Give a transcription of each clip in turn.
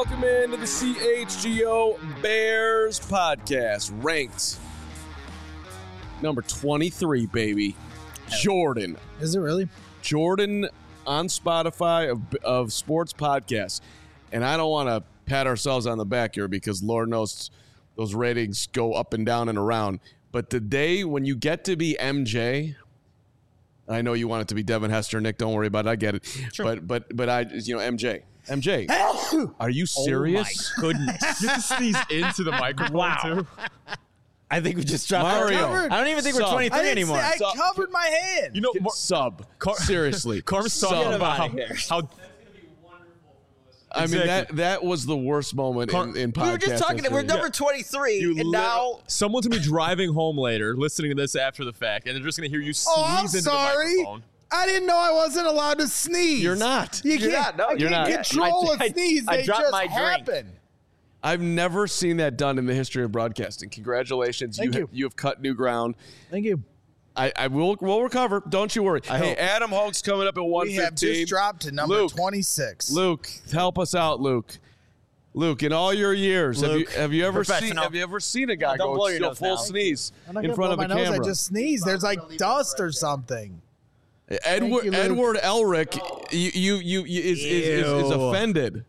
welcome into the CHGO Bears podcast. Ranked number 23, baby. Jordan. Is it really? Jordan on Spotify of sports podcasts. And I don't want to pat ourselves on the back here because Lord knows those ratings go up and down and around. But the day when you get to be MJ, I know you want it to be Devin Hester, Nick. Don't worry about it. I get it. Sure. But MJ. Are you serious? Oh my goodness. You have to sneeze into the microphone too. I think we just dropped Mario. I don't even think we're 23 anymore. I covered my hand. You know, Seriously. Carm's talking about how I mean, that was the worst moment in podcast. We were just talking. We're number 23, and now someone's gonna be driving home later, listening to this after the fact, and they're just gonna hear you sneeze into the microphone. I didn't know I wasn't allowed to sneeze. You're not. You can't. No, you're not. Control a sneeze. I they dropped just my drink. happen. I've never seen that done in the history of broadcasting. Congratulations. Thank you. You have cut new ground. Thank you. We'll recover. Don't you worry. Hey, Adam Hoke's coming up at 1:15. We have just dropped to number 26. Luke, help us out, Luke. Luke, in all your years, have you ever seen a guy go full sneeze in front of a camera? I just sneezed. There's like dust or something. Edward Elric is offended.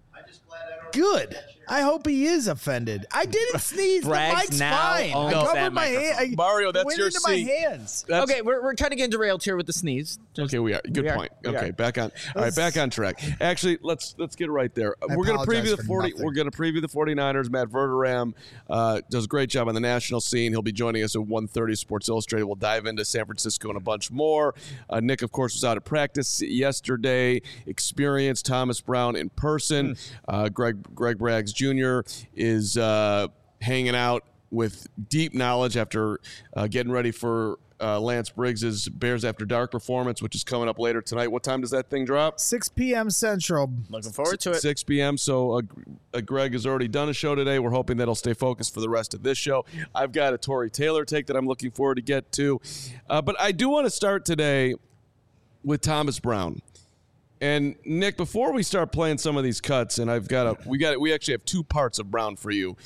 Good. I hope he is offended. I didn't sneeze. The mic's fine. I covered my hand. Mario, that's your seat. seat. My hands. Okay, we're kind of getting derailed here with the sneeze. Okay, we are. Good point. Okay, back on. All right, back on track. Actually, let's get right there. We're going to preview the 40. We're going to preview the 49ers. Matt Verderam does a great job on the national scene. He'll be joining us at 1:30 Sports Illustrated. We'll dive into San Francisco and a bunch more. Nick, of course, was out at practice yesterday. Experienced Thomas Brown in person. Greg Braggs Jr. is hanging out with deep knowledge after getting ready for Lance Briggs's Bears After Dark performance, which is coming up later tonight. What time does that thing drop? 6 p.m. Central. Looking forward to it. 6 p.m. So Greg has already done a show today. We're hoping that'll stay focused for the rest of this show. I've got a Tory Taylor take that I'm looking forward to get to. But I do want to start today with Thomas Brown. And Nick, before we start playing some of these cuts, and we actually have two parts of Brown for you.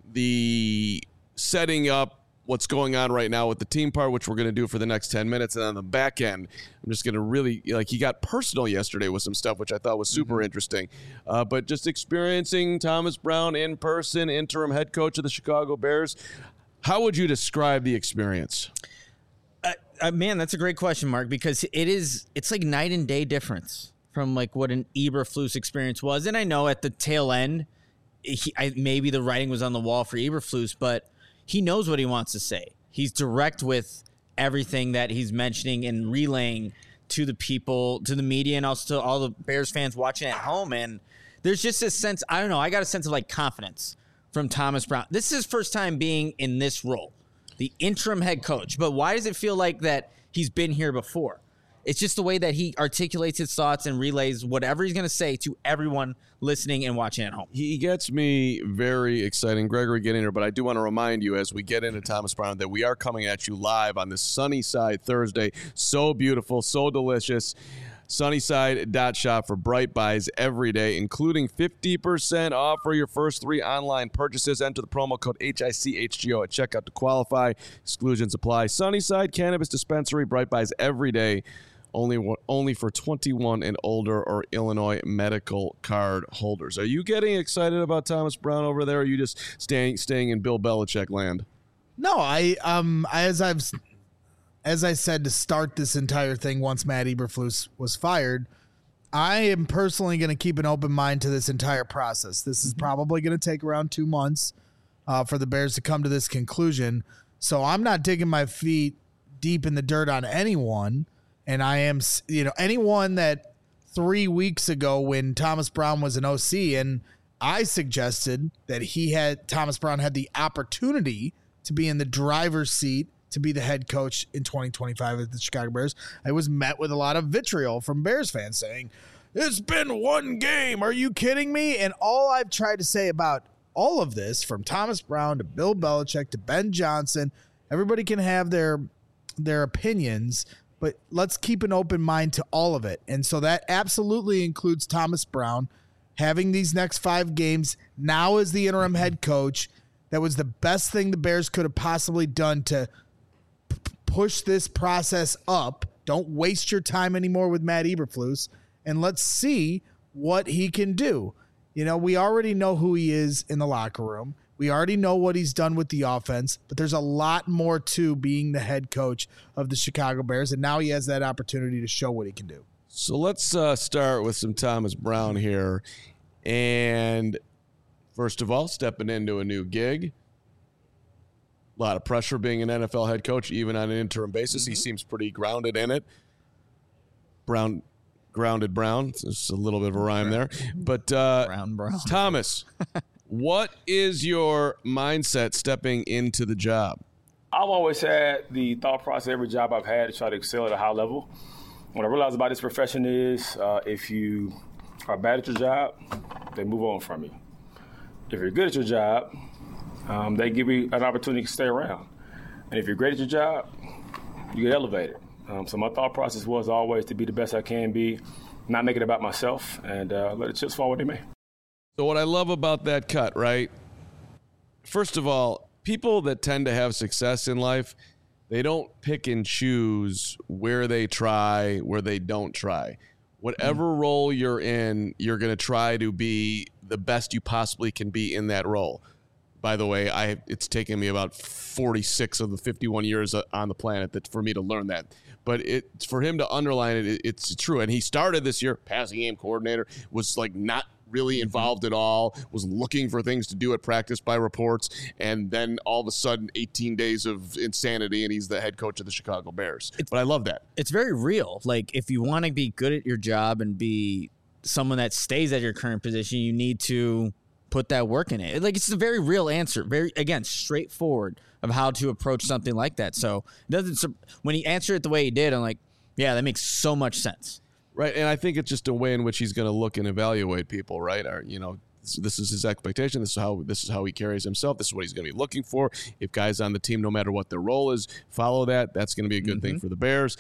The setting up what's going on right now with the team part, which we're going to do for the next 10 minutes. And on the back end, I'm just going to really, he got personal yesterday with some stuff, which I thought was super interesting. But just experiencing Thomas Brown in person, interim head coach of the Chicago Bears, how would you describe the experience? Man, that's a great question, Mark, because it's like night and day difference from like what an Eberflus experience was. And I know at the tail end, maybe the writing was on the wall for Eberflus, but he knows what he wants to say. He's direct with everything that he's mentioning and relaying to the people, to the media, and also to all the Bears fans watching at home. And there's just this sense, I don't know, I got a sense of like confidence from Thomas Brown. This is his first time being in this role, the interim head coach. But why does it feel like that he's been here before? It's just the way that he articulates his thoughts and relays whatever he's going to say to everyone listening and watching at home. He gets me very excited. Gregory, get in here, but I do want to remind you as we get into Thomas Brown that we are coming at you live on this Sunnyside Thursday. So beautiful, so delicious. Sunnyside.shop for bright buys every day, including 50% off for your first 3 online purchases. Enter the promo code HICHGO at checkout to qualify. Exclusions apply. Sunnyside Cannabis Dispensary, bright buys every day. Only for 21 and older or Illinois medical card holders. Are you getting excited about Thomas Brown over there, or are you just staying in Bill Belichick land? No, as I said to start this entire thing once Matt Eberflus was fired, I am personally going to keep an open mind to this entire process. This is probably going to take around 2 months for the Bears to come to this conclusion. So I'm not digging my feet deep in the dirt on anyone. And I am, anyone that 3 weeks ago when Thomas Brown was an OC and I suggested that Thomas Brown had the opportunity to be in the driver's seat to be the head coach in 2025 at the Chicago Bears, I was met with a lot of vitriol from Bears fans saying, it's been 1 game. Are you kidding me? And all I've tried to say about all of this, from Thomas Brown to Bill Belichick to Ben Johnson, everybody can have their opinions, but let's keep an open mind to all of it. And so that absolutely includes Thomas Brown having these next 5 games now as the interim head coach, that was the best thing the Bears could have possibly done to push this process up. Don't waste your time anymore with Matt Eberflus, and let's see what he can do. You know, we already know who he is in the locker room. We already know what he's done with the offense, but there's a lot more to being the head coach of the Chicago Bears, and now he has that opportunity to show what he can do. So let's start with some Thomas Brown here. And first of all, stepping into a new gig. A lot of pressure being an NFL head coach, even on an interim basis. He seems pretty grounded in it. Grounded Brown. It's a little bit of a rhyme there. But Brown. Thomas, what is your mindset stepping into the job? I've always had the thought process, every job I've had, to try to excel at a high level. What I realized about this profession is if you are bad at your job, they move on from you. If you're good at your job, they give you an opportunity to stay around. And if you're great at your job, you get elevated. So my thought process was always to be the best I can be, not make it about myself, and let the chips fall where they may. So what I love about that cut, right? First of all, people that tend to have success in life, they don't pick and choose where they try, where they don't try. Whatever role you're in, you're going to try to be the best you possibly can be in that role. By the way, it's taken me about 46 of the 51 years on the planet for me to learn that. But for him to underline it, it's true. And he started this year, passing game coordinator, was like not really involved at all, was looking for things to do at practice by reports, and then all of a sudden 18 days of insanity, and he's the head coach of the Chicago Bears. But I love that. It's very real. Like, if you want to be good at your job and be someone that stays at your current position, you need to put that work in it. Like, it's a very real answer, very, again, straightforward of how to approach something like that. So when he answered it the way he did, I'm like, yeah, that makes so much sense. Right, and I think it's just a way in which he's going to look and evaluate people, right? Or, you know, this is his expectation. This is how he carries himself. This is what he's going to be looking for. If guys on the team, no matter what their role is, follow that, that's going to be a good thing for the Bears.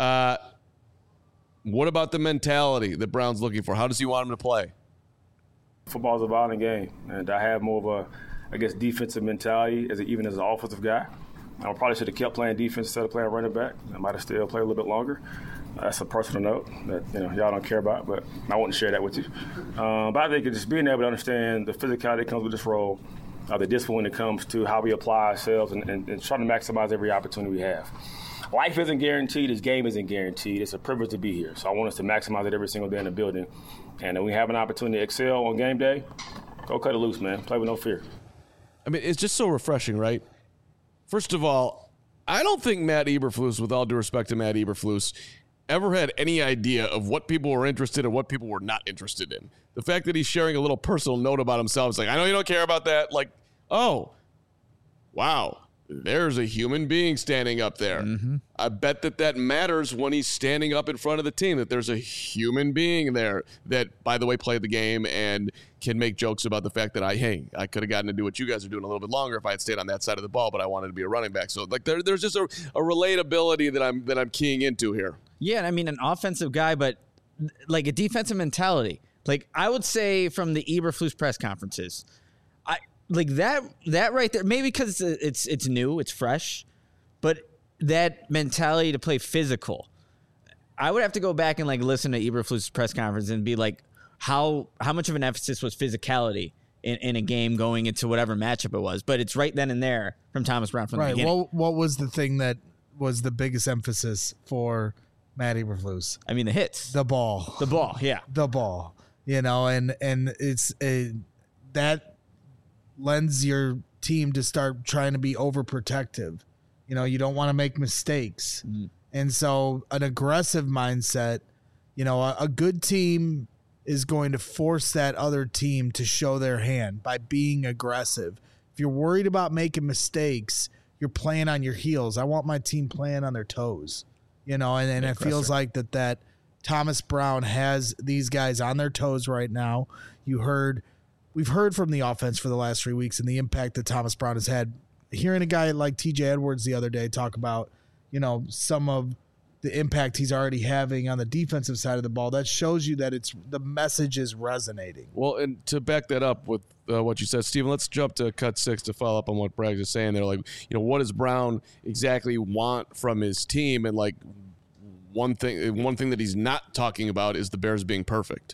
What about the mentality that Brown's looking for? How does he want him to play? Football is a violent game, and I have more of a, defensive mentality even as an offensive guy. I probably should have kept playing defense instead of playing running back. I might have still played a little bit longer. That's a personal note that y'all don't care about, but I want to share that with you. But I think just being able to understand the physicality that comes with this role, the discipline when it comes to how we apply ourselves, and trying to maximize every opportunity we have. Life isn't guaranteed. This game isn't guaranteed. It's a privilege to be here. So I want us to maximize it every single day in the building. And when we have an opportunity to excel on game day, go cut it loose, man. Play with no fear. I mean, it's just so refreshing, right? First of all, I don't think Matt Eberflus, with all due respect to Matt Eberflus, ever had any idea of what people were interested in and what people were not interested in. The fact that he's sharing a little personal note about himself is like, I know you don't care about that. Like, oh, wow, there's a human being standing up there. I bet that matters when he's standing up in front of the team, that there's a human being there that, by the way, played the game and can make jokes about the fact that I could have gotten to do what you guys are doing a little bit longer if I had stayed on that side of the ball, but I wanted to be a running back. So like there's just a relatability that I'm keying into here. Yeah, I mean, an offensive guy, but like a defensive mentality. Like, I would say from the Eberflus press conferences, like that right there, maybe because it's new, it's fresh, but that mentality to play physical, I would have to go back and like listen to Eberflus' press conference and be like, how much of an emphasis was physicality in a game going into whatever matchup it was. But it's right then and there from Thomas Brown from the beginning. What was the thing that was the biggest emphasis for Matt Eberflus? I mean, the hits. The ball, yeah. The ball, and it's that lends your team to start trying to be overprotective. You don't want to make mistakes. And so an aggressive mindset, a good team is going to force that other team to show their hand by being aggressive. If you're worried about making mistakes, you're playing on your heels. I want my team playing on their toes, and it feels like that Thomas Brown has these guys on their toes right now. We've heard from the offense for the last 3 weeks and the impact that Thomas Brown has had. Hearing a guy like TJ Edwards the other day talk about, some of the impact he's already having on the defensive side of the ball, that shows you that the message is resonating. Well, and to back that up with what you said, Stephen, let's jump to cut 6 to follow up on what Bragg is saying. They're like, what does Brown exactly want from his team? And like one thing that he's not talking about is the Bears being perfect.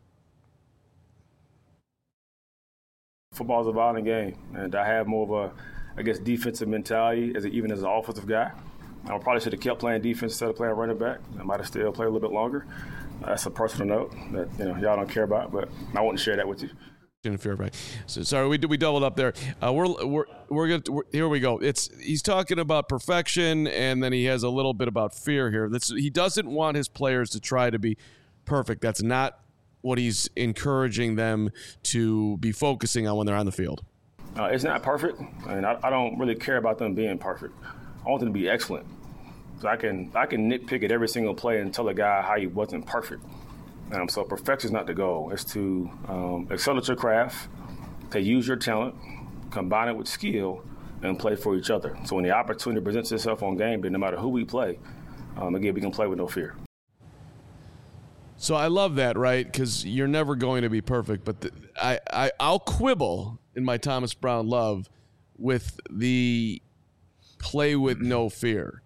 Football is a violent game, and I have more of a, defensive mentality even as an offensive guy. I probably should have kept playing defense instead of playing running back. I might have still played a little bit longer. That's a personal note that y'all don't care about, but I want to share that with you. So sorry, we doubled up there. Here we go. He's talking about perfection, and then he has a little bit about fear here. He doesn't want his players to try to be perfect. That's not what he's encouraging them to be focusing on when they're on the field. It's not perfect, and I don't really care about them being perfect. I want them to be excellent. So I can nitpick at every single play and tell a guy how he wasn't perfect. So perfection is not the goal. It's to excel at your craft, to use your talent, combine it with skill, and play for each other. So when the opportunity presents itself on game day, no matter who we play, again, we can play with no fear. So I love that, right? Because you're never going to be perfect. But I'll quibble in my Thomas Brown love with the play with no fear.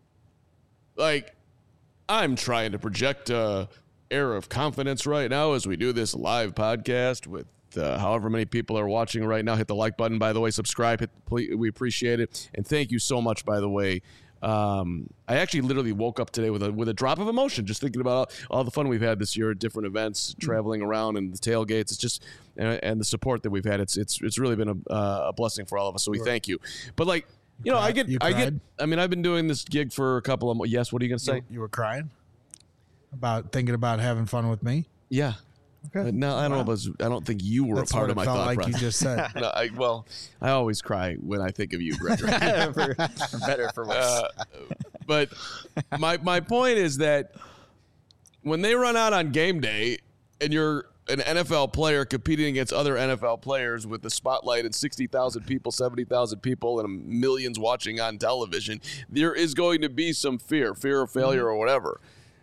Like, I'm trying to project a air of confidence right now as we do this live podcast with however many people are watching right now. Hit the like button, by the way. Subscribe. We appreciate it. And thank you so much, by the way. I actually literally woke up today with a drop of emotion just thinking about all the fun we've had this year at different events, traveling around and the tailgates. It's just and the support that we've had. It's really been a blessing for all of us. So we thank you. But like, I mean, I've been doing this gig for a couple of months. Yes, what are you going to say? You were crying about thinking about having fun with me? Yeah. Okay. No, I don't know. I don't think you were That's a part of my thought like process. You just said. No, I always cry when I think of you, Gregory. for better for worse. But my point is that when they run out on game day and you're an NFL player competing against other NFL players with the spotlight and 60,000 people, 70,000 people, and millions watching on television, there is going to be some fear of failure or whatever.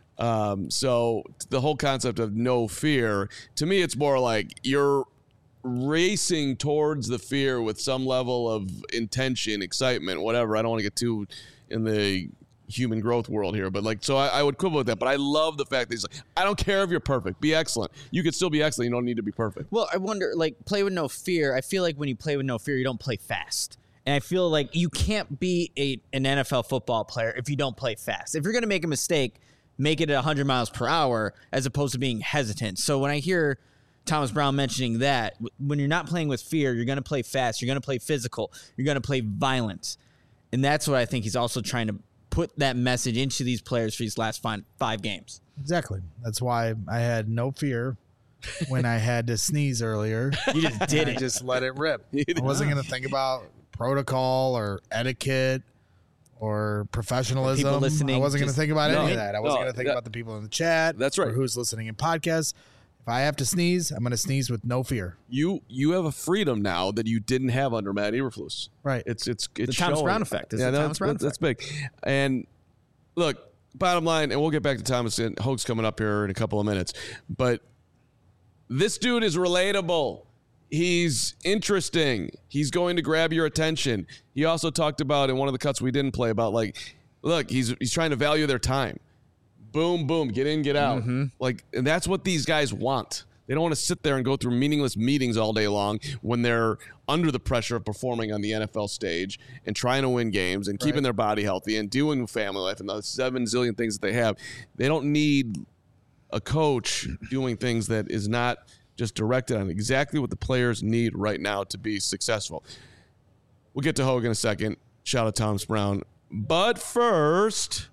So the whole concept of no fear, to me, it's more like you're racing towards the fear with some level of intention, excitement, whatever. I don't want to get too in the human growth world here, but like, so I would quibble with that, but I love the fact that he's like, I don't care if you're perfect, be excellent. You could still be excellent. You don't need to be perfect. Well, I wonder, like, play with no fear. I feel like when you play with no fear, you don't play fast. And I feel like you can't be an NFL football player if you don't play fast. If you're going to make a mistake, make it at 100 miles per hour as opposed to being hesitant. So when I hear Thomas Brown mentioning that, when you're not playing with fear, you're going to play fast, you're going to play physical, you're going to play violence. And that's what I think he's also trying to put that message into these players for these last 5 games. Exactly. That's why I had no fear when I had to sneeze earlier. You just did it. I just let it rip. I wasn't going to think about protocol or etiquette or professionalism. People listening, I wasn't going to think about any of that. I wasn't no, going to think about the people in the chat. That's right. Or who's listening in podcasts. If I have to sneeze, I'm going to sneeze with no fear. You have a freedom now that you didn't have under Matt Eberflus. Right. It's the Thomas Brown effect. That's big. And look, bottom line, and we'll get back to Thomas and Hoke's coming up here in a couple of minutes, but this dude is relatable. He's interesting. He's going to grab your attention. He also talked about in one of the cuts we didn't play about, like, look, he's trying to value their time. Boom, boom, get in, get out. Mm-hmm. Like, and that's what these guys want. They don't want to sit there and go through meaningless meetings all day long when they're under the pressure of performing on the NFL stage and trying to win games and keeping their body healthy and doing family life and the 7 zillion things that they have. They don't need a coach doing things that is not just directed on exactly what the players need right now to be successful. We'll get to Hogue in a second. Shout out Thomas Brown. But first,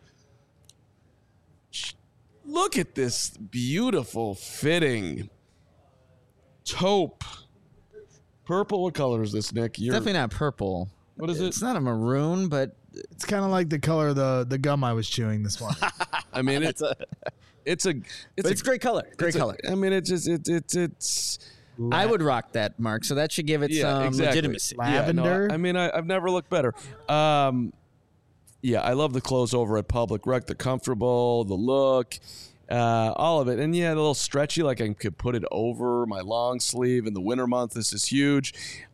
look at this beautiful fitting taupe. Purple. What color is this, Nick? Definitely not purple. What is it? It's not a maroon, but It's kind of like the color of the gum I was chewing this morning. I mean, it's a great color. Great color. I mean, it's. I would rock that, Mark. So that should give it some legitimacy. Lavender. I mean, I've never looked better. Yeah, I love the clothes over at Public Rec. They're comfortable, the look, all of it. And yeah, a little stretchy, like I could put it over my long sleeve in the winter month. This is huge.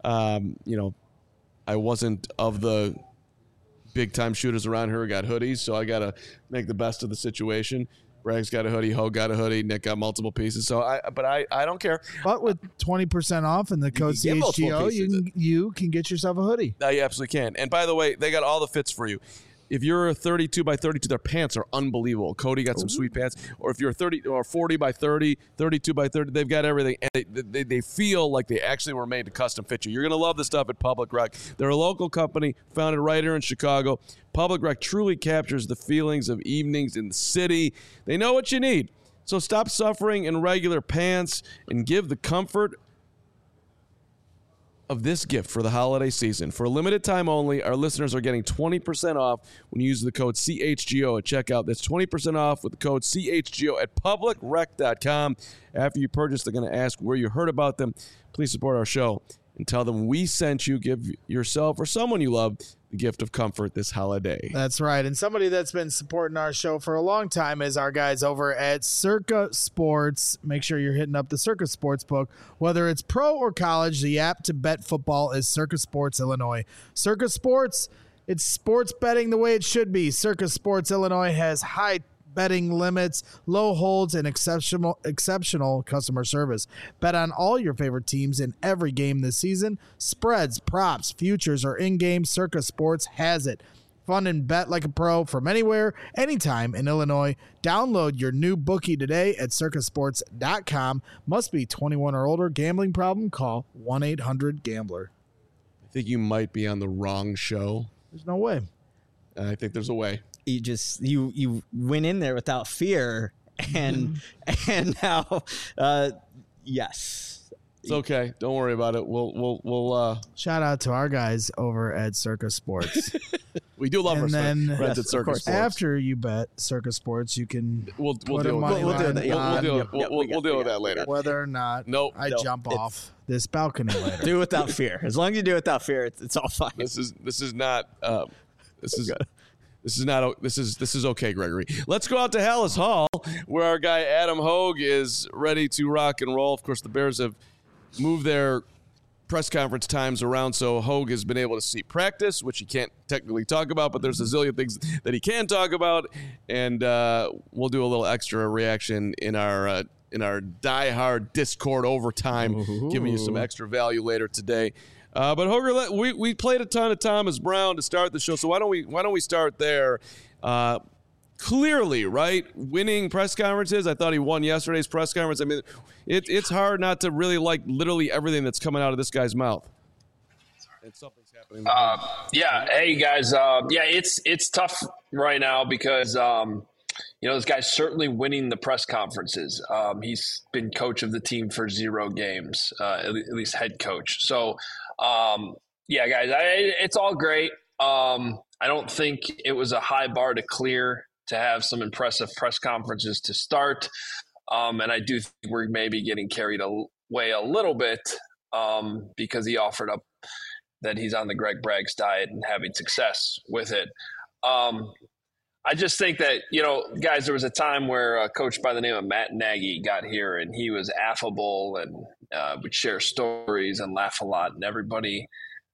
I wasn't of the big-time shooters around here who got hoodies, so I got to make the best of the situation. Bragg's got a hoodie, Hogue got a hoodie, Nick got multiple pieces. So I don't care. But with 20% off and the code CHGO, you can get yourself a hoodie. You absolutely can. And by the way, they got all the fits for you. If you're a 32 by 32, their pants are unbelievable. Cody got some sweet pants. Or if you're 30 or 40 by 30, 32 by 30, they've got everything. And they feel like they actually were made to custom fit you. You're going to love the stuff at Public Rec. They're a local company founded right here in Chicago. Public Rec truly captures the feelings of evenings in the city. They know what you need. So stop suffering in regular pants and give the comfort of this gift for the holiday season. For a limited time only, our listeners are getting 20% off when you use the code CHGO at checkout. That's 20% off with the code CHGO at publicrec.com. After you purchase, they're going to ask where you heard about them. Please support our show and tell them we sent you. Give yourself or someone you love the gift of comfort this holiday. That's right. And somebody that's been supporting our show for a long time is our guys over at Circa Sports. Make sure you're hitting up the Circa Sports book. Whether it's pro or college, the app to bet football is Circa Sports Illinois. Circa Sports, it's sports betting the way it should be. Circa Sports Illinois has high betting limits, low holds, and exceptional customer service. Bet on all your favorite teams in every game this season. Spreads, props, futures, or in-game, Circa Sports has it. Fun and bet like a pro from anywhere, anytime in Illinois. Download your new bookie today at circasports.com. Must be 21 or older. Gambling problem? Call 1-800-GAMBLER. I think you might be on the wrong show. There's no way. I think there's a way. You went in there without fear, and now yes, it's okay. Don't worry about it. We'll shout out to our guys over at Circa Sports. We do love and our then friends at Circa Sports. After you bet Circa Sports, you can we'll deal with that later. Whether or not I jump off this balcony later. Do it without fear. As long as you do it without fear, it's all fine. This is okay, Gregory. Let's go out to Hallis Hall, where our guy Adam Hogue is ready to rock and roll. Of course, the Bears have moved their press conference times around, so Hogue has been able to see practice, which he can't technically talk about, but there's a zillion things that he can talk about, and we'll do a little extra reaction in our diehard Discord overtime, giving you some extra value later today. But Hoger, we played a ton of Thomas Brown to start the show, so why don't we start there? Clearly, right, winning press conferences. I thought he won yesterday's press conference. I mean, it's hard not to really like literally everything that's coming out of this guy's mouth. And something's happening. Yeah. Hey guys. It's tough right now because this guy's certainly winning the press conferences. He's been coach of the team for 0 games, at least head coach. So. Guys, it's all great. I don't think it was a high bar to clear to have some impressive press conferences to start. And I do think we're maybe getting carried away a little bit because he offered up that he's on the Greg Braggs diet and having success with it. I just think that, guys, there was a time where a coach by the name of Matt Nagy got here and he was affable and would share stories and laugh a lot. And everybody,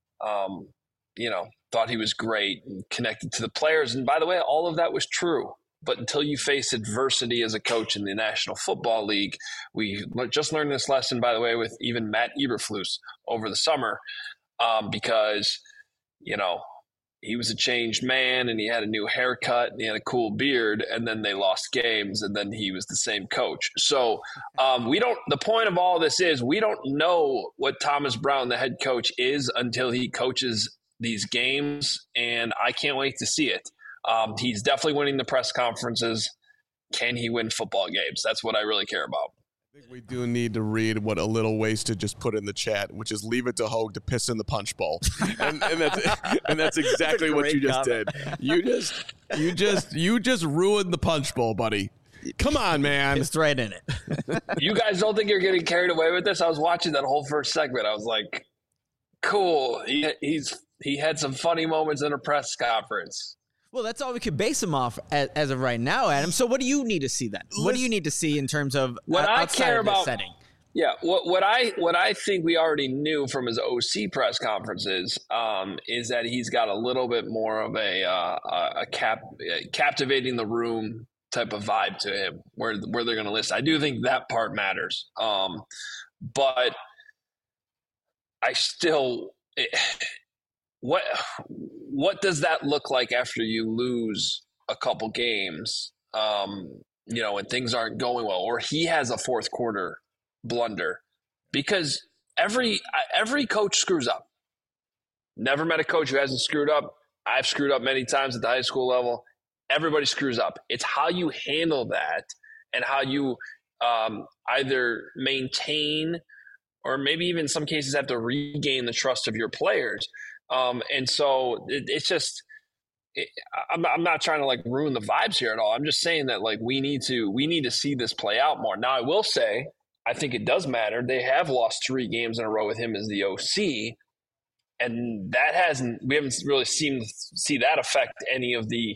thought he was great and connected to the players. And by the way, all of that was true. But until you face adversity as a coach in the National Football League, we just learned this lesson, by the way, with even Matt Eberflus over the summer because, he was a changed man and he had a new haircut and he had a cool beard, and then they lost games and then he was the same coach. So the point of all this is we don't know what Thomas Brown, the head coach, is until he coaches these games, and I can't wait to see it. He's definitely winning the press conferences. Can he win football games? That's what I really care about. I think we do need to read what A Little Wasted just put in the chat, which is leave it to Hogue to piss in the punch bowl, and that's exactly what you just did. You just ruined the punch bowl, buddy. Come on, man. It's right in it. You guys don't think you're getting carried away with this? I was watching that whole first segment. I was like, cool. He had some funny moments in a press conference. Well, that's all we could base him off as of right now, Adam. So what do you need to see then? What do you need to see in terms of what I care about setting? Yeah, what I think we already knew from his OC press conferences is that he's got a little bit more of a captivating the room type of vibe to him, where they're going to listen. I do think that part matters, but I still what does that look like after you lose a couple games? When things aren't going well, or he has a fourth quarter blunder, because every coach screws up. Never met a coach who hasn't screwed up. I've screwed up many times at the high school level. Everybody screws up. It's how you handle that and how you either maintain or maybe even in some cases have to regain the trust of your players. And so it's just I'm not trying to like ruin the vibes here at all. I'm just saying that like we need to see this play out more. Now I will say I think it does matter. They have lost 3 games in a row with him as the OC, and we haven't really seen see that affect any of the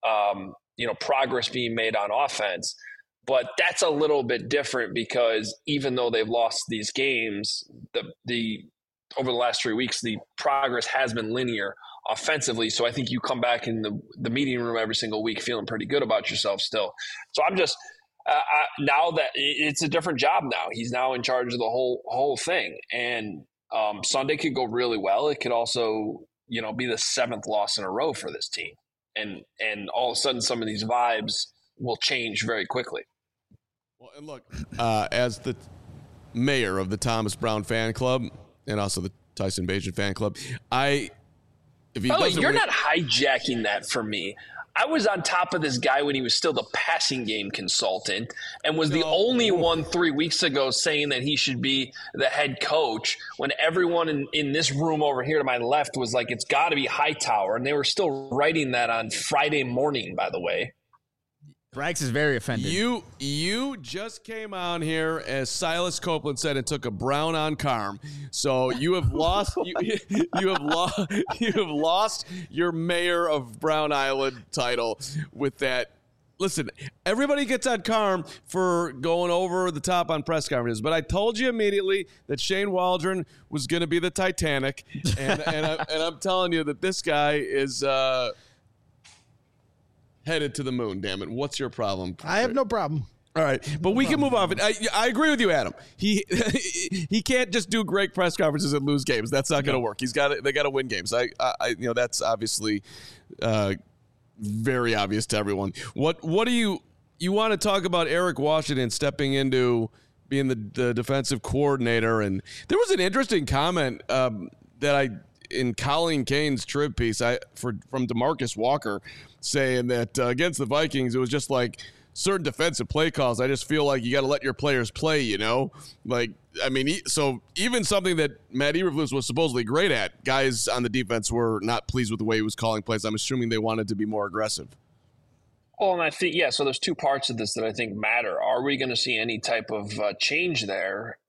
progress being made on offense. But that's a little bit different because even though they've lost these games, the over the last 3 weeks, the progress has been linear offensively. So I think you come back in the meeting room every single week feeling pretty good about yourself still. So I'm just now that it's a different job now. He's now in charge of the whole thing. And Sunday could go really well. It could also, be the 7th loss in a row for this team. And all of a sudden some of these vibes will change very quickly. Well, and look, as the mayor of the Thomas Brown fan club and also the Tyson Bagent fan club, by the way, you're not hijacking that from me. I was on top of this guy when he was still the passing game consultant and was the only one 3 weeks ago saying that he should be the head coach when everyone in this room over here to my left was like, it's got to be Hightower. And they were still writing that on Friday morning, by the way. Brax is very offended. You just came on here, as Silas Copeland said, and took a brown on Carm. So you have lost. You have lost your mayor of Brown Island title with that. Listen, everybody gets on Carm for going over the top on press conferences, but I told you immediately that Shane Waldron was going to be the Titanic, and I'm telling you that this guy is. Headed to the moon, damn it. What's your problem? I have no problem. All right, but we can move on. I agree with you, Adam. He can't just do great press conferences and lose games. That's not going to work. They got to win games. That's obviously very obvious to everyone. What do you want to talk about Eric Washington stepping into being the defensive coordinator? And there was an interesting comment in Colleen Kane's trib piece from DeMarcus Walker saying that against the Vikings, it was just like certain defensive play calls. I just feel like you got to let your players play, so even something that Matt Eberflus was supposedly great at, guys on the defense were not pleased with the way he was calling plays. I'm assuming they wanted to be more aggressive. Well, and I think, so there's 2 parts of this that I think matter. Are we going to see any type of change there?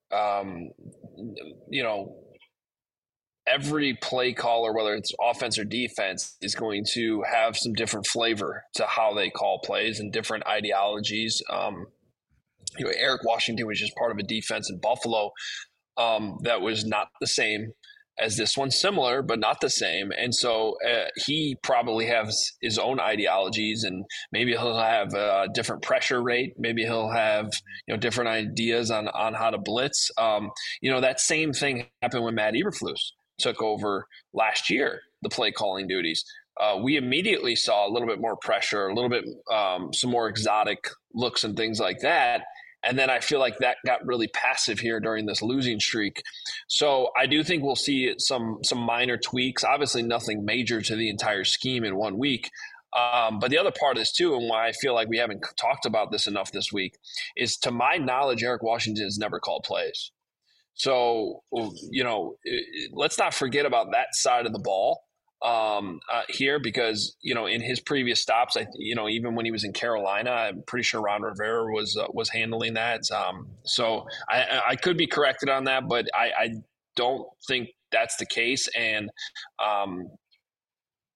Every play caller, whether it's offense or defense, is going to have some different flavor to how they call plays and different ideologies. Eric Washington was just part of a defense in Buffalo that was not the same as this one, similar, but not the same. And so he probably has his own ideologies, and maybe he'll have a different pressure rate. Maybe he'll have, different ideas on how to blitz. That same thing happened when Matt Eberflus took over last year, the play calling duties. We immediately saw a little bit more pressure, a little bit, some more exotic looks and things like that. And then I feel like that got really passive here during this losing streak. So I do think we'll see some minor tweaks, obviously nothing major to the entire scheme in 1 week. But the other part of this too, and why I feel like we haven't talked about this enough this week, is to my knowledge, Eric Washington has never called plays. So, let's not forget about that side of the ball here, because, in his previous stops, even when he was in Carolina, I'm pretty sure Ron Rivera was handling that. So I could be corrected on that, but I don't think that's the case. And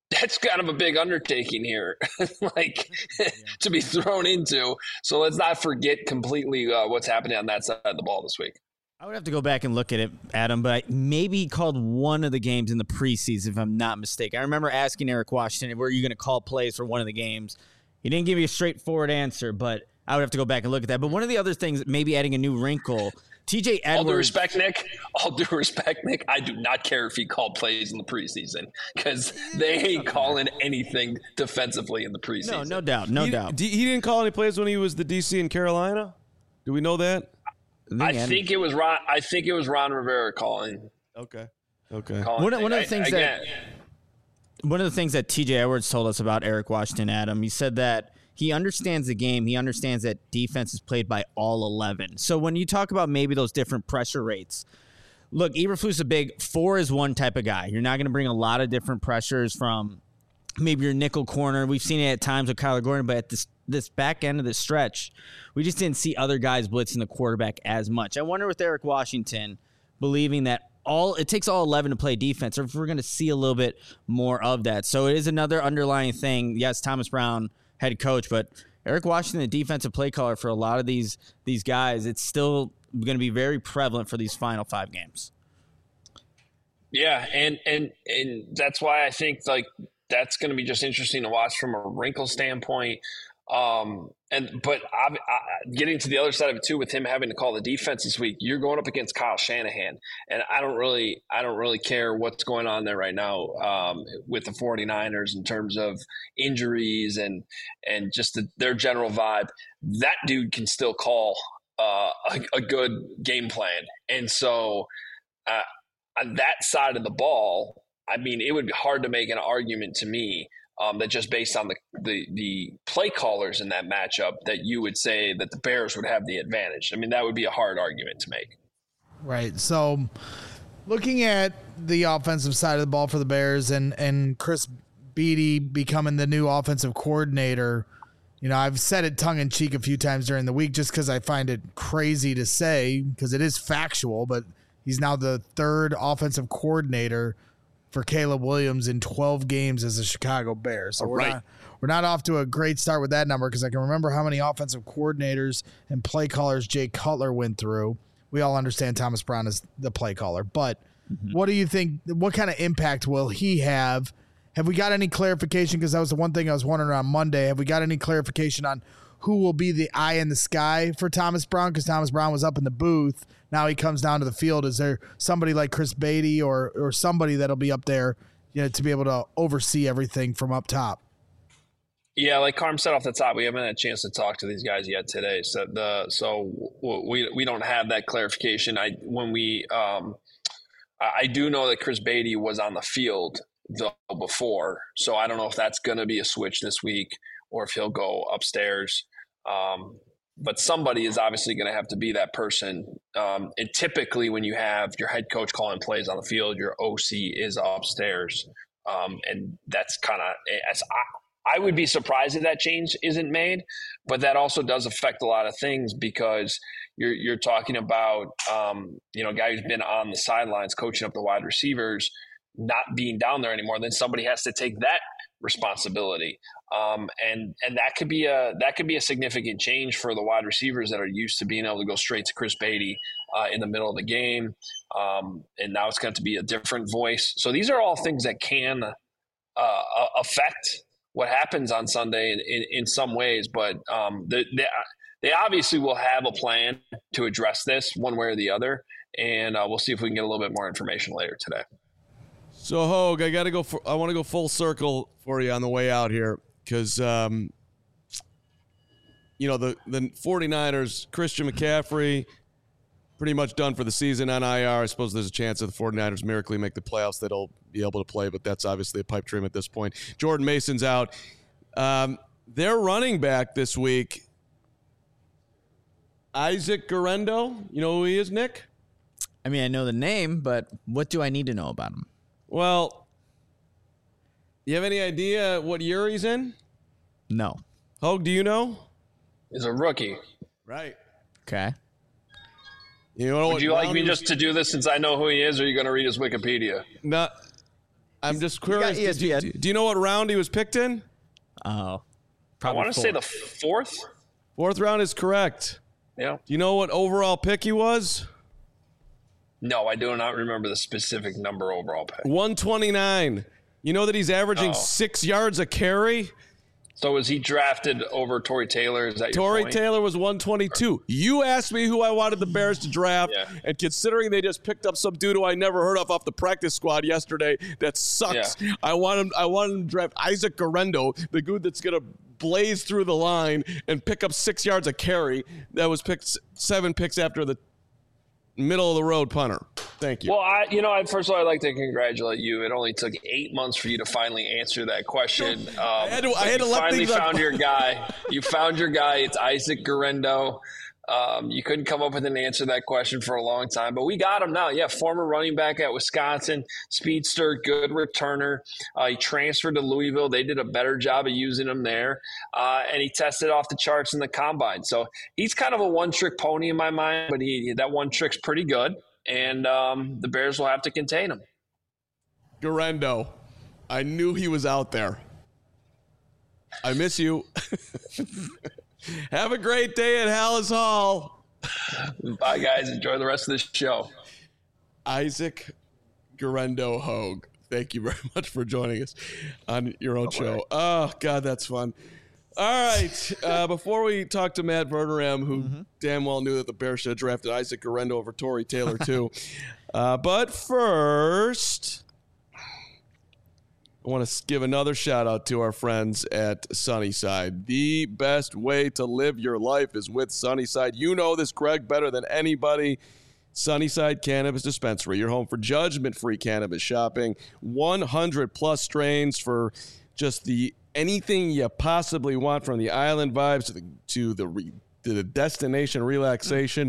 that's kind of a big undertaking here, to be thrown into. So let's not forget completely what's happening on that side of the ball this week. I would have to go back and look at it, Adam, but maybe he called one of the games in the preseason, if I'm not mistaken. I remember asking Eric Washington, were you going to call plays for one of the games? He didn't give me a straightforward answer, but I would have to go back and look at that. But one of the other things, maybe adding a new wrinkle, TJ Edwards. All due respect, Nick, I do not care if he called plays in the preseason because they ain't calling anything defensively in the preseason. No doubt. He didn't call any plays when he was the DC in Carolina? Do we know that? I think it was Ron. I think it was Ron Rivera calling. Okay. One of the things that TJ Edwards told us about Eric Washington, Adam, he said that he understands the game. He understands that defense is played by all 11. So when you talk about maybe those different pressure rates, look, Eberflus is a big 4-is-1 type of guy. You're not going to bring a lot of different pressures from maybe your nickel corner. We've seen it at times with Kyler Gordon, but at this back end of the stretch, we just didn't see other guys blitzing the quarterback as much. I wonder with Eric Washington believing that it takes all 11 to play defense, or if we're going to see a little bit more of that. So it is another underlying thing. Yes, Thomas Brown, head coach, but Eric Washington, the defensive play caller for a lot of these guys, it's still going to be very prevalent for these final 5 games. Yeah, and that's why I think that's going to be just interesting to watch from a wrinkle standpoint. But getting to the other side of it too, with him having to call the defense this week, you're going up against Kyle Shanahan, and I don't really care what's going on there right now with the 49ers in terms of injuries and just their general vibe. That dude can still call a good game plan, and so on that side of the ball, I mean, it would be hard to make an argument to me that just based on the play callers in that matchup that you would say that the Bears would have the advantage. I mean, that would be a hard argument to make. Right. So looking at the offensive side of the ball for the Bears and Chris Beatty becoming the new offensive coordinator, I've said it tongue in cheek a few times during the week just because I find it crazy to say because it is factual, but he's now the 3rd offensive coordinator for Caleb Williams in 12 games as a Chicago Bear. So we're not off to a great start with that number because I can remember how many offensive coordinators and play callers Jay Cutler went through. We all understand Thomas Brown is the play caller, but what do you think? What kind of impact will he have? Have we got any clarification? Because that was the one thing I was wondering on Monday. Have we got any clarification on who will be the eye in the sky for Thomas Brown? Because Thomas Brown was up in the booth. Now he comes down to the field. Is there somebody like Chris Beatty or somebody that'll be up there, to be able to oversee everything from up top? Yeah, like Carm said off the top, we haven't had a chance to talk to these guys yet today. So we don't have that clarification. I do know that Chris Beatty was on the field though before, so I don't know if that's going to be a switch this week or if he'll go upstairs. But somebody is obviously going to have to be that person. And typically when you have your head coach calling plays on the field, your OC is upstairs. And that's kind of – I would be surprised if that change isn't made, but that also does affect a lot of things because you're talking about a guy who's been on the sidelines coaching up the wide receivers not being down there anymore. Then somebody has to take that responsibility. And that could be a significant change for the wide receivers that are used to being able to go straight to Chris Beatty in the middle of the game. And now it's going to be a different voice. So these are all things that can affect what happens on Sunday in some ways, but they obviously will have a plan to address this one way or the other. And we'll see if we can get a little bit more information later today. So, Hogue, I want to go full circle for you on the way out here because, the 49ers, Christian McCaffrey, pretty much done for the season on IR. I suppose there's a chance that the 49ers miraculously make the playoffs that he'll be able to play, but that's obviously a pipe dream at this point. Jordan Mason's out. Their running back this week, Isaac Guerendo. You know who he is, Nick? I mean, I know the name, but what do I need to know about him? Well, you have any idea what year he's in? No. Hogue, do you know? He's a rookie. Right. Okay. Would you like me just to do this since I know who he is, or are you going to read his Wikipedia? No. I'm just curious. ESPN. Do you know what round he was picked in? Oh, I want to say the fourth. Fourth round is correct. Yeah. Do you know what overall pick he was? No, I do not remember the specific number overall pick. 129. You know that he's averaging 6 yards a carry? So was he drafted over Tory Taylor? Is that your point? Taylor was 122. You asked me who I wanted the Bears to draft, and considering they just picked up some dude who I never heard of off the practice squad yesterday that sucks, I wanted him to draft Isaac Guerendo, the dude that's going to blaze through the line and pick up 6 yards a carry. That was picked 7 picks after the middle of the road punter. Thank you. Well, first of all, I'd like to congratulate you. It only took 8 months for you to finally answer that question. I had to let finally things found your guy. You found your guy. It's Isaac Guerendo. You couldn't come up with an answer to that question for a long time, but we got him now. Yeah, former running back at Wisconsin, speedster, good returner. He transferred to Louisville. They did a better job of using him there, and he tested off the charts in the combine. So he's kind of a one-trick pony in my mind, but that one trick's pretty good, and the Bears will have to contain him. Guerendo, I knew he was out there. I miss you. Have a great day at Hallis Hall. Bye, guys. Enjoy the rest of the show. Isaac Guerendo Hogue, thank you very much for joining us on your own show. Oh, God, that's fun. All right. Before we talk to Matt Verderame, who damn well knew that the Bears should have drafted Isaac Guerendo over Tory Taylor, too. But first, I want to give another shout out to our friends at Sunnyside. The best way to live your life is with Sunnyside. You know this, Greg, better than anybody. Sunnyside Cannabis Dispensary, your home for judgment-free cannabis shopping. 100-plus strains for just anything you possibly want, from the island vibes to the destination relaxation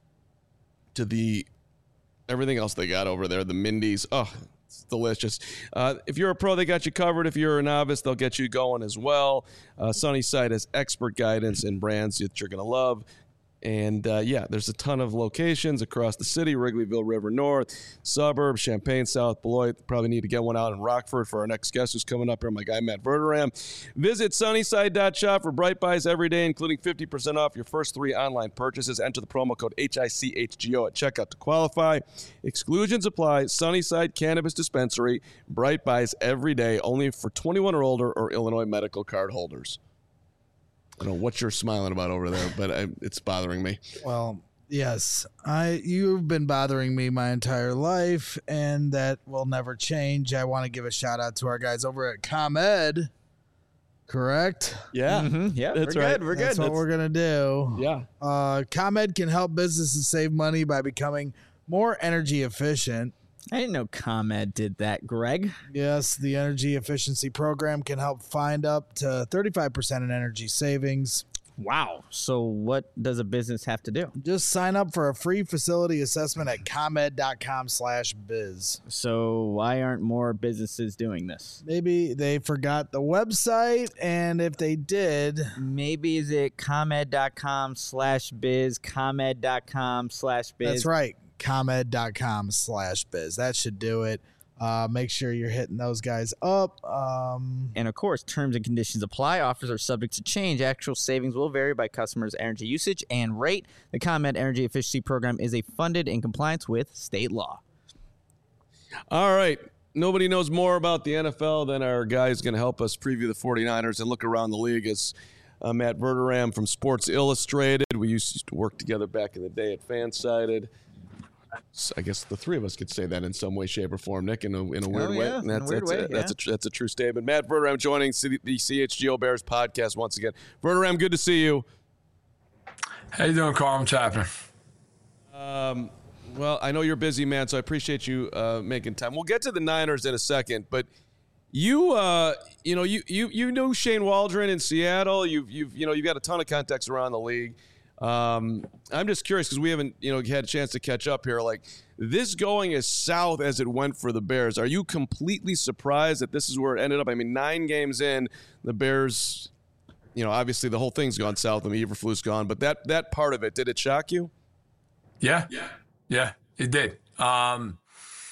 to the everything else they got over there, the Mindy's. Oh, it's delicious. If you're a pro, they got you covered. If you're a novice, they'll get you going as well. Sunnyside has expert guidance and brands that you're going to love. And, there's a ton of locations across the city: Wrigleyville, River North, suburbs, Champaign, South Beloit. Probably need to get one out in Rockford for our next guest who's coming up here, my guy Matt Verderame. Visit Sunnyside.shop for Bright Buys every day, including 50% off your first 3 online purchases. Enter the promo code HICHGO at checkout to qualify. Exclusions apply. Sunnyside Cannabis Dispensary. Bright Buys every day, only for 21 or older or Illinois medical card holders. I don't know what you're smiling about over there, but it's bothering me. Well, yes, you've been bothering me my entire life, and that will never change. I want to give a shout out to our guys over at ComEd. Correct? Yeah, Yeah, that's we're right. good. We're good. That's what we're gonna do. Yeah. ComEd can help businesses save money by becoming more energy efficient. I didn't know ComEd did that, Greg. Yes, the energy efficiency program can help find up to 35% in energy savings. Wow. So what does a business have to do? Just sign up for a free facility assessment at ComEd.com/biz. So why aren't more businesses doing this? Maybe they forgot the website, and if they did, Maybe is it ComEd.com/biz, ComEd.com/biz? that's right, ComEd.com/biz. That should do it. Make sure you're hitting those guys up. And of course, terms and conditions apply. Offers are subject to change. Actual savings will vary by customers' energy usage and rate. The ComEd Energy Efficiency Program is funded in compliance with state law. All right. Nobody knows more about the NFL than our guy who's going to help us preview the 49ers and look around the league. As Matt Verderame from Sports Illustrated. We used to work together back in the day at Fansided. I guess the three of us could say that in some way, shape, or form, Nick, in a weird way. Yeah, And that's a true statement. Matt Verderame joining the CHGO Bears podcast once again. Verderame, good to see you. How you doing, Carl? What's happening? Well, I know you're busy, man, so I appreciate you making time. We'll get to the Niners in a second, but you know Shane Waldron in Seattle. You've got a ton of contacts around the league. I'm just curious because we haven't, had a chance to catch up here. Like, this going as south as it went for the Bears, are you completely surprised that this is where it ended up? I mean, 9 games in, the Bears, obviously the whole thing's gone south. I mean, Eberflus gone, but that part of it, did it shock you? Yeah, it did.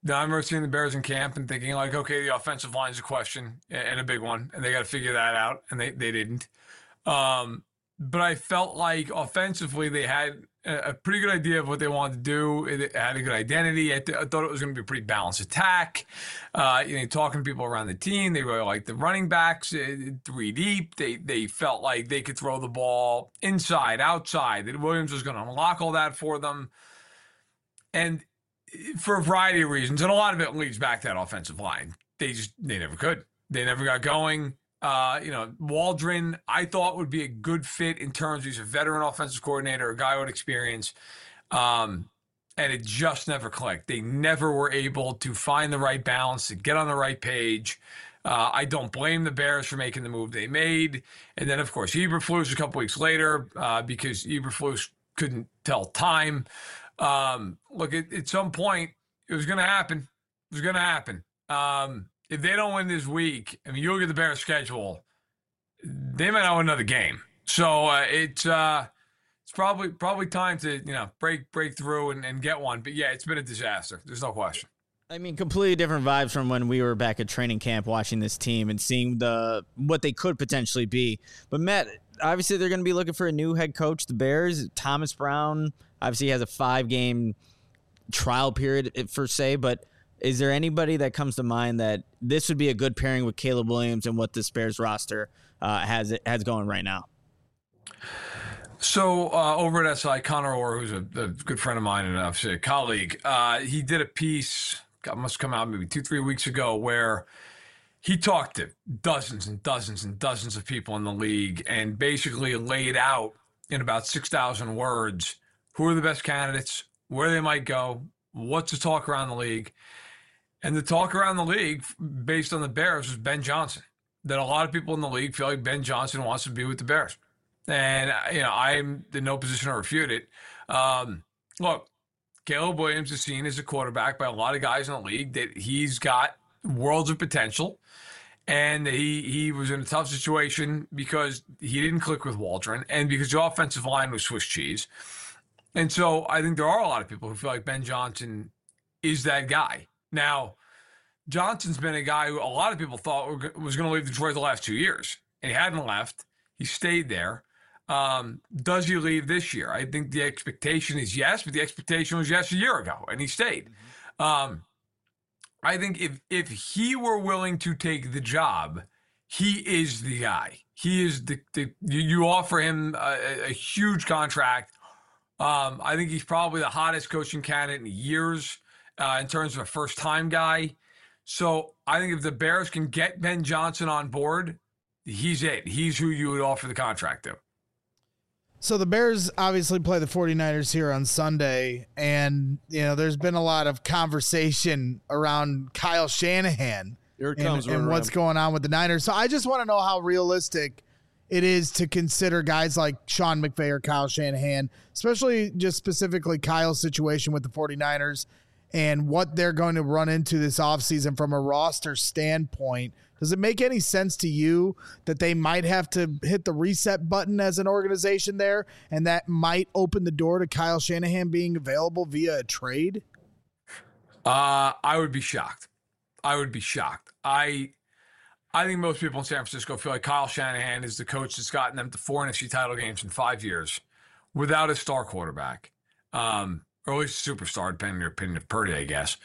Now, I remember seeing the Bears in camp and thinking, like, okay, the offensive line is a question and a big one, and they got to figure that out, and they didn't. But I felt like offensively they had a pretty good idea of what they wanted to do. It had a good identity. I thought it was going to be a pretty balanced attack. Talking to people around the team, they really liked the running backs, 3 deep. They felt like they could throw the ball inside, outside, that Williams was going to unlock all that for them. And for a variety of reasons, and a lot of it leads back to that offensive line. They never could. They never got going. Waldron, I thought would be a good fit in terms of he's a veteran offensive coordinator, a guy with experience. And it just never clicked. They never were able to find the right balance, to get on the right page. I don't blame the Bears for making the move they made. And then, of course, Eberflus a couple weeks later, because Eberflus couldn't tell time. Look, at some point, it was going to happen. It was going to happen. If they don't win this week, I mean, you look at the Bears' schedule, they might not win another game. So it's probably time to break through and get one. But yeah, it's been a disaster. There's no question. I mean, completely different vibes from when we were back at training camp watching this team and seeing what they could potentially be. But Matt, obviously they're going to be looking for a new head coach. The Bears, Thomas Brown, obviously has a 5-game trial period per se, but is there anybody that comes to mind that this would be a good pairing with Caleb Williams and what this Bears roster has going right now? So over at SI, Connor Orr, who's a good friend of mine and obviously a colleague, he did a piece, must come out maybe 2-3 weeks ago, where he talked to dozens and dozens and dozens of people in the league and basically laid out in about 6,000 words who are the best candidates, where they might go, what's the talk around the league. And the talk around the league, based on the Bears, was Ben Johnson. That a lot of people in the league feel like Ben Johnson wants to be with the Bears. And, I'm in no position to refute it. Look, Caleb Williams is seen as a quarterback by a lot of guys in the league that he's got worlds of potential. And he was in a tough situation because he didn't click with Waldron and because the offensive line was Swiss cheese. And so I think there are a lot of people who feel like Ben Johnson is that guy. Now, Johnson's been a guy who a lot of people thought was going to leave Detroit the last 2 years, and he hadn't left. He stayed there. Does he leave this year? I think the expectation is yes, but the expectation was yes a year ago, and he stayed. I think if he were willing to take the job, he is the guy. He is you offer him a huge contract. I think he's probably the hottest coaching candidate in years in terms of a first-time guy. So I think if the Bears can get Ben Johnson on board, he's it. He's who you would offer the contract to. So the Bears obviously play the 49ers here on Sunday, and there's been a lot of conversation around Kyle Shanahan and what's going on with the Niners. So I just want to know how realistic it is to consider guys like Sean McVay or Kyle Shanahan, especially just specifically Kyle's situation with the 49ers and what they're going to run into this offseason from a roster standpoint. Does it make any sense to you that they might have to hit the reset button as an organization there, and that might open the door to Kyle Shanahan being available via a trade? I would be shocked. I think most people in San Francisco feel like Kyle Shanahan is the coach that's gotten them to 4 NFC title games in 5 years without a star quarterback, or at least a superstar, depending on your opinion of Purdy, I guess.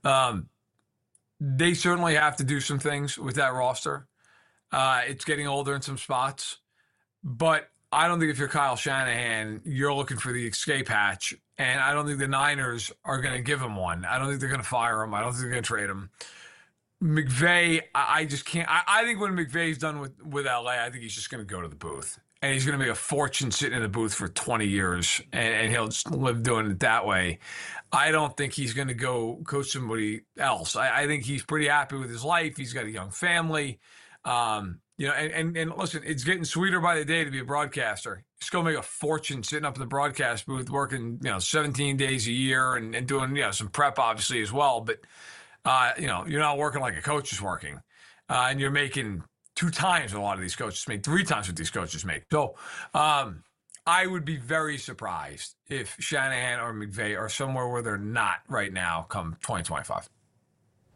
They certainly have to do some things with that roster. It's getting older in some spots. But I don't think if you're Kyle Shanahan, you're looking for the escape hatch. And I don't think the Niners are going to give him one. I don't think they're going to fire him. I don't think they're going to trade him. McVay, I just can't. I think when McVay's done with LA, I think he's just going to go to the booth. And he's going to make a fortune sitting in the booth for 20 years, and he'll just live doing it that way. I don't think he's going to go coach somebody else. I think he's pretty happy with his life. He's got a young family. And listen, it's getting sweeter by the day to be a broadcaster. He's going to make a fortune sitting up in the broadcast booth, working 17 days a year and doing some prep obviously as well. But you're not working like a coach is working, and you're making 2 times what a lot of these coaches make, 3 times what these coaches make. So I would be very surprised if Shanahan or McVay are somewhere where they're not right now come 2025.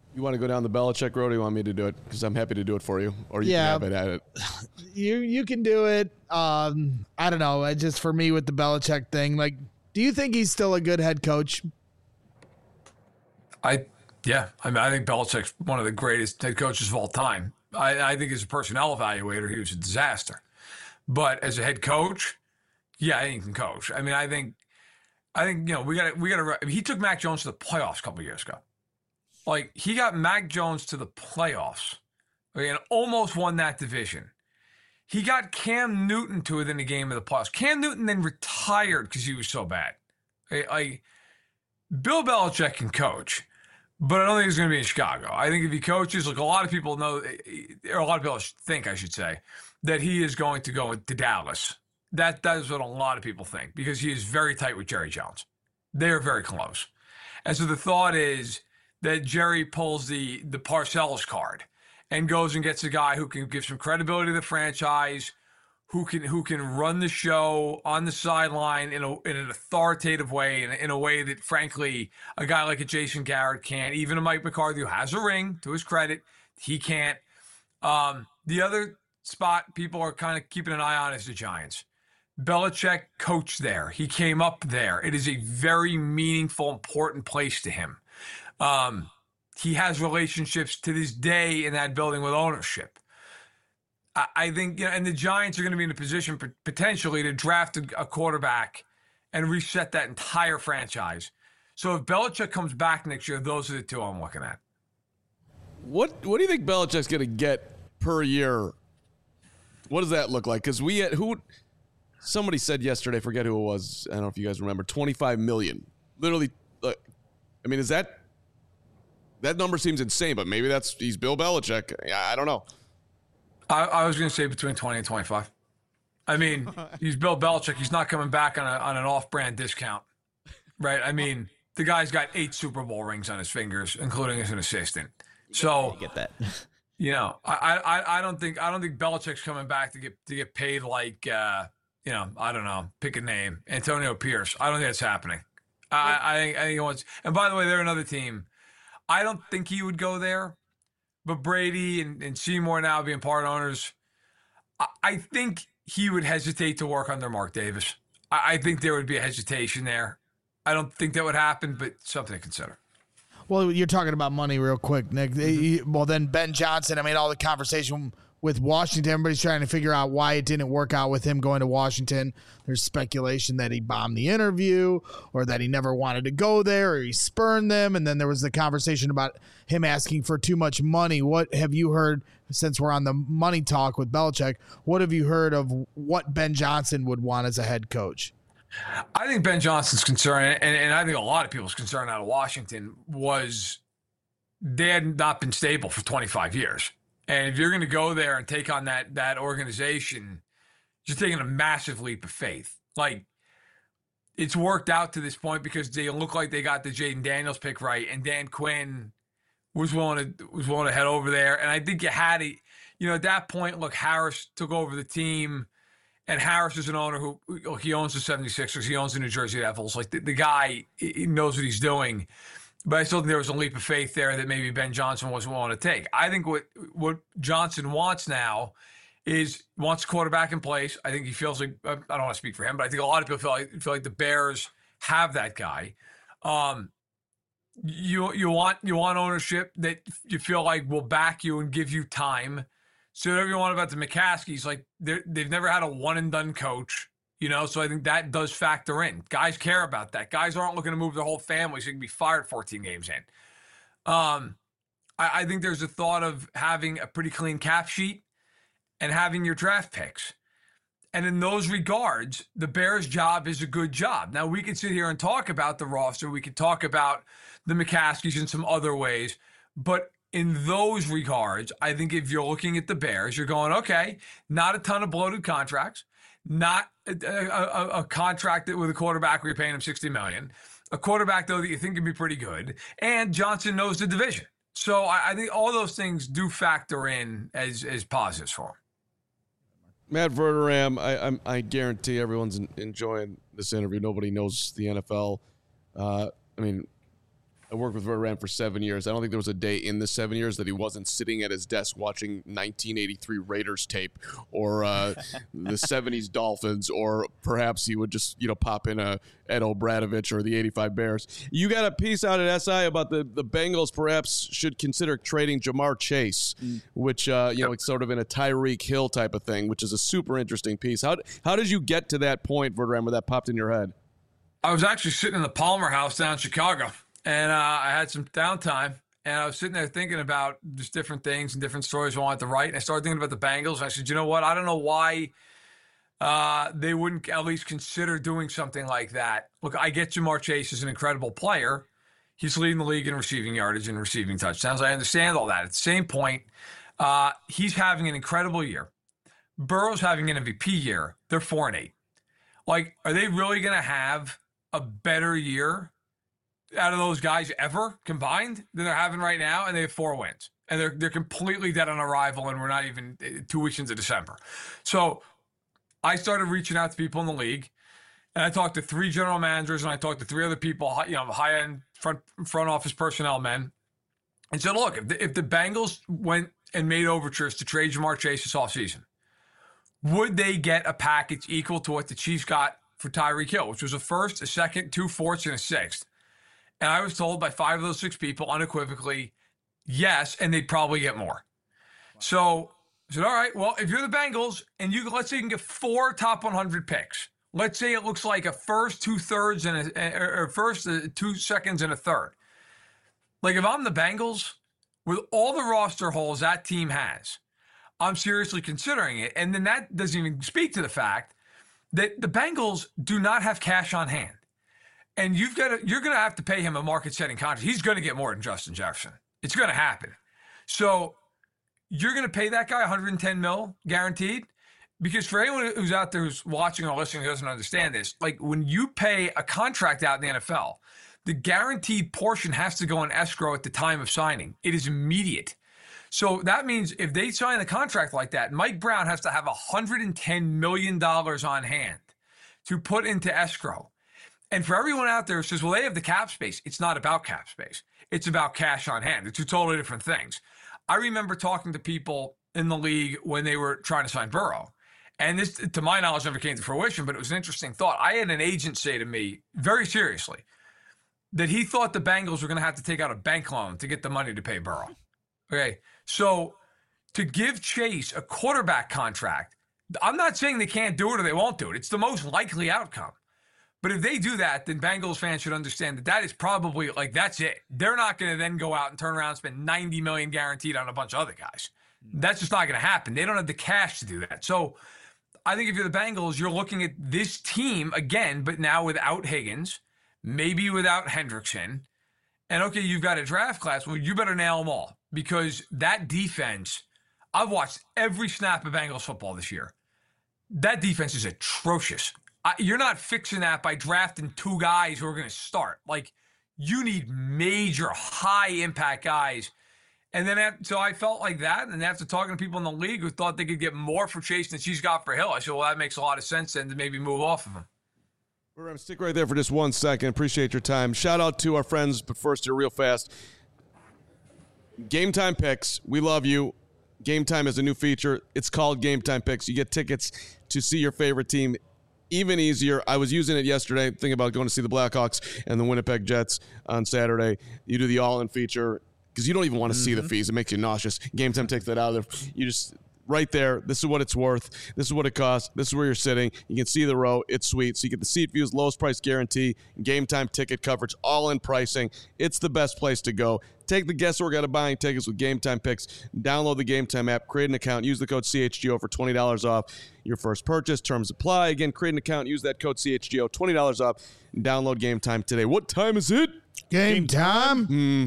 You want to go down the Belichick road, or you want me to do it? Because I'm happy to do it for you, or you can have it at it. You can do it. I don't know. Just for me with the Belichick thing, like, do you think he's still a good head coach? Yeah. I mean, I think Belichick's one of the greatest head coaches of all time. I think as a personnel evaluator, he was a disaster. But as a head coach, yeah, he can coach. I mean, I think we got to. He took Mac Jones to the playoffs a couple of years ago. Like, he got Mac Jones to the playoffs, and almost won that division. He got Cam Newton to it in the game of the playoffs. Cam Newton then retired because he was so bad. Bill Belichick can coach, but I don't think he's going to be in Chicago. I think if he coaches, like a lot of people know, or a lot of people think, I should say, that he is going to go to Dallas. That is what a lot of people think, because he is very tight with Jerry Jones. They are very close. And so the thought is that Jerry pulls the Parcells card and goes and gets a guy who can give some credibility to the franchise, who can run the show on the sideline in an authoritative way, in a way that, frankly, a guy like a Jason Garrett can't. Even a Mike McCarthy, who has a ring, to his credit, he can't. The other spot people are kind of keeping an eye on is the Giants. Belichick coached there. He came up there. It is a very meaningful, important place to him. He has relationships to this day in that building with ownership. I think, and the Giants are going to be in a position potentially to draft a quarterback and reset that entire franchise. So if Belichick comes back next year, those are the two I'm looking at. What do you think Belichick's going to get per year? What does that look like? Because somebody said yesterday, forget who it was, I don't know if you guys remember, $25 million. Literally, I mean, is that number seems insane, but maybe he's Bill Belichick. I don't know. I was going to say between 20 and 25. I mean, he's Bill Belichick. He's not coming back on an off-brand discount, right? I mean, the guy's got 8 Super Bowl rings on his fingers, including as an assistant. So get that. I don't think Belichick's coming back to get paid like I don't know, pick a name, Antonio Pierce. I don't think that's happening. I think he wants. And by the way, they're another team. I don't think he would go there. But Brady and Seymour now being part owners, I think he would hesitate to work under Mark Davis. I think there would be a hesitation there. I don't think that would happen, but something to consider. Well, you're talking about money real quick, Nick. Well, then Ben Johnson, I mean, all the conversation with Washington, everybody's trying to figure out why it didn't work out with him going to Washington. There's speculation that he bombed the interview, or that he never wanted to go there, or he spurned them. And then there was the conversation about him asking for too much money. What have you heard, since we're on the money talk with Belichick, what have you heard of what Ben Johnson would want as a head coach? I think Ben Johnson's concern, and I think a lot of people's concern out of Washington, was they had not been stable for 25 years. And if you're going to go there and take on that organization, you're taking a massive leap of faith. Like, it's worked out to this point because they look like they got the Jaden Daniels pick right, and Dan Quinn was willing to head over there. And I think you had at that point, look, Harris took over the team, and Harris is an owner who he owns the 76ers, he owns the New Jersey Devils. Like, the guy, he knows what he's doing. But I still think there was a leap of faith there that maybe Ben Johnson wasn't willing to take. I think what Johnson wants now is wants a quarterback in place. I think he feels like, I don't want to speak for him, but I think a lot of people feel like the Bears have that guy. You want ownership that you feel like will back you and give you time. So whatever you want about the McCaskies, like they've never had a one and done coach. So I think that does factor in. Guys care about that. Guys aren't looking to move their whole family so you can be fired 14 games in. I think there's a thought of having a pretty clean cap sheet and having your draft picks. And in those regards, the Bears' job is a good job. Now, we could sit here and talk about the roster. We could talk about the McCaskies in some other ways. But in those regards, I think if you're looking at the Bears, you're going, okay, not a ton of bloated contracts. Not a contract with a quarterback where you're paying him $60 million. A quarterback, though, that you think can be pretty good. And Johnson knows the division. So I think all those things do factor in as positives for him. Matt Verderam, I guarantee everyone's enjoying this interview. Nobody knows the NFL. I mean, I worked with Verderame for 7 years. I don't think there was a day in the 7 years that he wasn't sitting at his desk watching 1983 Raiders tape or the 70s Dolphins, or perhaps he would just, pop in a Ed O'Bradovich or the 85 Bears. You got a piece out at SI about the Bengals perhaps should consider trading Jamar Chase, which, it's sort of in a Tyreek Hill type of thing, which is a super interesting piece. How did you get to that point, Verderame, where that popped in your head? I was actually sitting in the Palmer House down in Chicago. And I had some downtime, and I was sitting there thinking about just different things and different stories I wanted to write. And I started thinking about the Bengals. And I said, you know what? I don't know why they wouldn't at least consider doing something like that. Look, I get Jamar Chase is an incredible player. He's leading the league in receiving yardage and receiving touchdowns. I understand all that. At the same point, he's having an incredible year. Burrow's having an MVP year. They're 4-8. Like, are they really going to have a better year out of those guys ever combined than they're having right now? And they have 4 wins, and they're completely dead on arrival, and we're not even 2 weeks into December. So I started reaching out to people in the league, and I talked to 3 general managers, and I talked to 3 other people, high-end front office personnel men, and said, look, if the Bengals went and made overtures to trade Jamar Chase this offseason, would they get a package equal to what the Chiefs got for Tyreek Hill, which was a first, a second, 2 fourths, and a sixth? And I was told by 5 of those 6 people unequivocally, yes, and they'd probably get more. So I said, all right, well, if you're the Bengals and let's say you can get 4 top 100 picks. Let's say it looks like a first, 2/3, or first, 2 seconds, and a third. Like, if I'm the Bengals, with all the roster holes that team has, I'm seriously considering it. And then that doesn't even speak to the fact that the Bengals do not have cash on hand. And you're going to have to pay him a market-setting contract. He's going to get more than Justin Jefferson. It's going to happen. So you're going to pay that guy $110 million guaranteed? Because for anyone who's out there who's watching or listening who doesn't understand this, like, when you pay a contract out in the NFL, the guaranteed portion has to go in escrow at the time of signing. It is immediate. So that means if they sign a contract like that, Mike Brown has to have $110 million on hand to put into escrow. And for everyone out there who says, well, they have the cap space, it's not about cap space. It's about cash on hand. They're 2 totally different things. I remember talking to people in the league when they were trying to sign Burrow. And this, to my knowledge, never came to fruition, but it was an interesting thought. I had an agent say to me, very seriously, that he thought the Bengals were going to have to take out a bank loan to get the money to pay Burrow. Okay, so to give Chase a quarterback contract, I'm not saying they can't do it or they won't do it. It's the most likely outcome. But if they do that, then Bengals fans should understand that is probably, like, that's it. They're not going to then go out and turn around and spend $90 million guaranteed on a bunch of other guys. That's just not going to happen. They don't have the cash to do that. So I think if you're the Bengals, you're looking at this team again, but now without Higgins, maybe without Hendrickson. And, okay, you've got a draft class. Well, you better nail them all, because that defense, I've watched every snap of Bengals football this year. That defense is atrocious. You're not fixing that by drafting 2 guys who are going to start. Like, you need major, high-impact guys. And then, so I felt like that. And after talking to people in the league who thought they could get more for Chase than she's got for Hill, I said, well, that makes a lot of sense then to maybe move off of him. Stick right there for just 1 second. Appreciate your time. Shout out to our friends, but first here real fast. Game Time Picks. We love you. Game Time is a new feature. It's called Game Time Picks. You get tickets to see your favorite team even easier. I was using it yesterday, thinking about going to see the Blackhawks and the Winnipeg Jets on Saturday. You do the all-in feature because you don't even want to see the fees. It makes you nauseous. Game Time takes that out of there. You just, right there, this is what it's worth. This is what it costs. This is where you're sitting. You can see the row. It's sweet. So you get the seat views, lowest price guarantee, Game Time ticket coverage, all-in pricing. It's the best place to go. Take the guesswork out of buying tickets with Game Time Picks. Download the Game Time app, create an account, use the code CHGO for $20 off your first purchase. Terms apply. Again, create an account, use that code CHGO, $20 off, and download Game Time today. What time is it? Game time.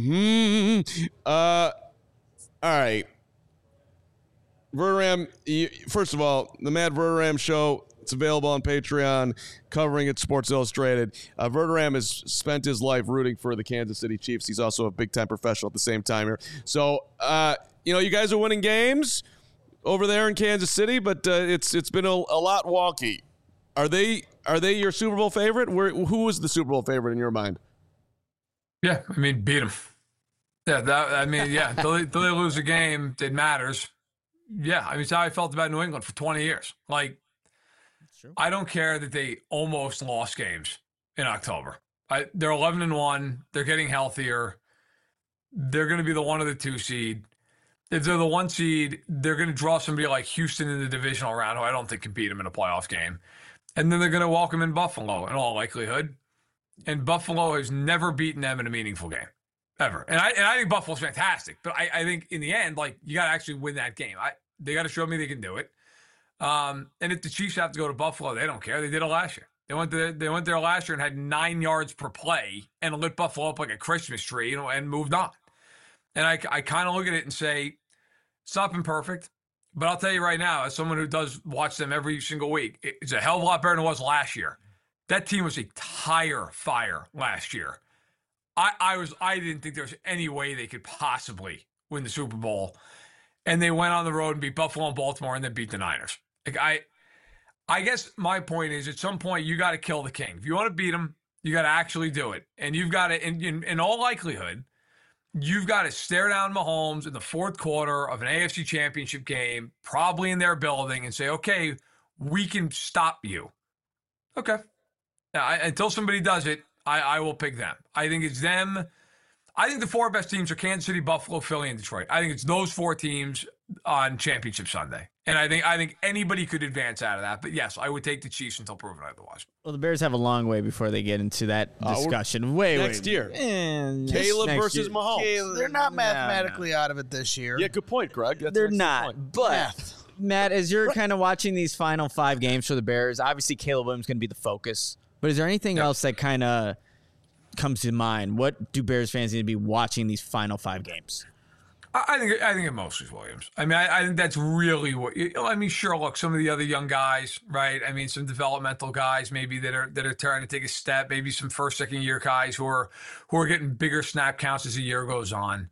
All right. Verderame, first of all, the Matt Verderame Show, it's available on Patreon, covering it, Sports Illustrated. Verderame has spent his life rooting for the Kansas City Chiefs. He's also a big-time professional at the same time here. So, you guys are winning games over there in Kansas City, but it's been a lot wonky. Are they your Super Bowl favorite? Who was the Super Bowl favorite in your mind? Yeah, I mean, beat them. Yeah, till they lose a game, it matters. Yeah, I mean, it's how I felt about New England for 20 years. Like, I don't care that they almost lost games in October. They're 11-1. They're getting healthier. They're going to be the 1 or the 2 seed. If they're the 1 seed, they're going to draw somebody like Houston in the divisional round, who I don't think can beat them in a playoff game. And then they're going to welcome in Buffalo in all likelihood. And Buffalo has never beaten them in a meaningful game, ever. And I think Buffalo's fantastic. But I think in the end, like, you got to actually win that game. They got to show me they can do it. And if the Chiefs have to go to Buffalo, they don't care. They did it last year. They went there last year and had 9 yards per play and lit Buffalo up like a Christmas tree, and moved on. And I kind of look at it and say, it's not been perfect, but I'll tell you right now, as someone who does watch them every single week, it's a hell of a lot better than it was last year. That team was a tire fire last year. I didn't think there was any way they could possibly win the Super Bowl, and they went on the road and beat Buffalo and Baltimore and then beat the Niners. Like, I guess my point is, at some point you got to kill the king. If you want to beat him, you got to actually do it, and you've got to, in all likelihood, you've got to stare down Mahomes in the fourth quarter of an AFC Championship game, probably in their building, and say, okay, we can stop you. Okay. Now, until somebody does it, I will pick them. I think it's them. I think the 4 best teams are Kansas City, Buffalo, Philly, and Detroit. I think it's those 4 teams on Championship Sunday. And I think anybody could advance out of that. But yes, I would take the Chiefs until proven otherwise. Well, the Bears have a long way before they get into that discussion. Next year. Caleb versus Mahomes. They're not mathematically out of it this year. Yeah, good point, Greg. They're not. But, Matt, as you're kind of watching these final 5 games for the Bears, obviously Caleb Williams is going to be the focus. But is there anything else that kind of comes to mind? What do Bears fans need to be watching these final 5 games? I think it mostly is Williams. I mean, I think that's really what. I mean, sure. Look, some of the other young guys, right? I mean, some developmental guys maybe that are trying to take a step. Maybe some first, second year guys who are getting bigger snap counts as the year goes on.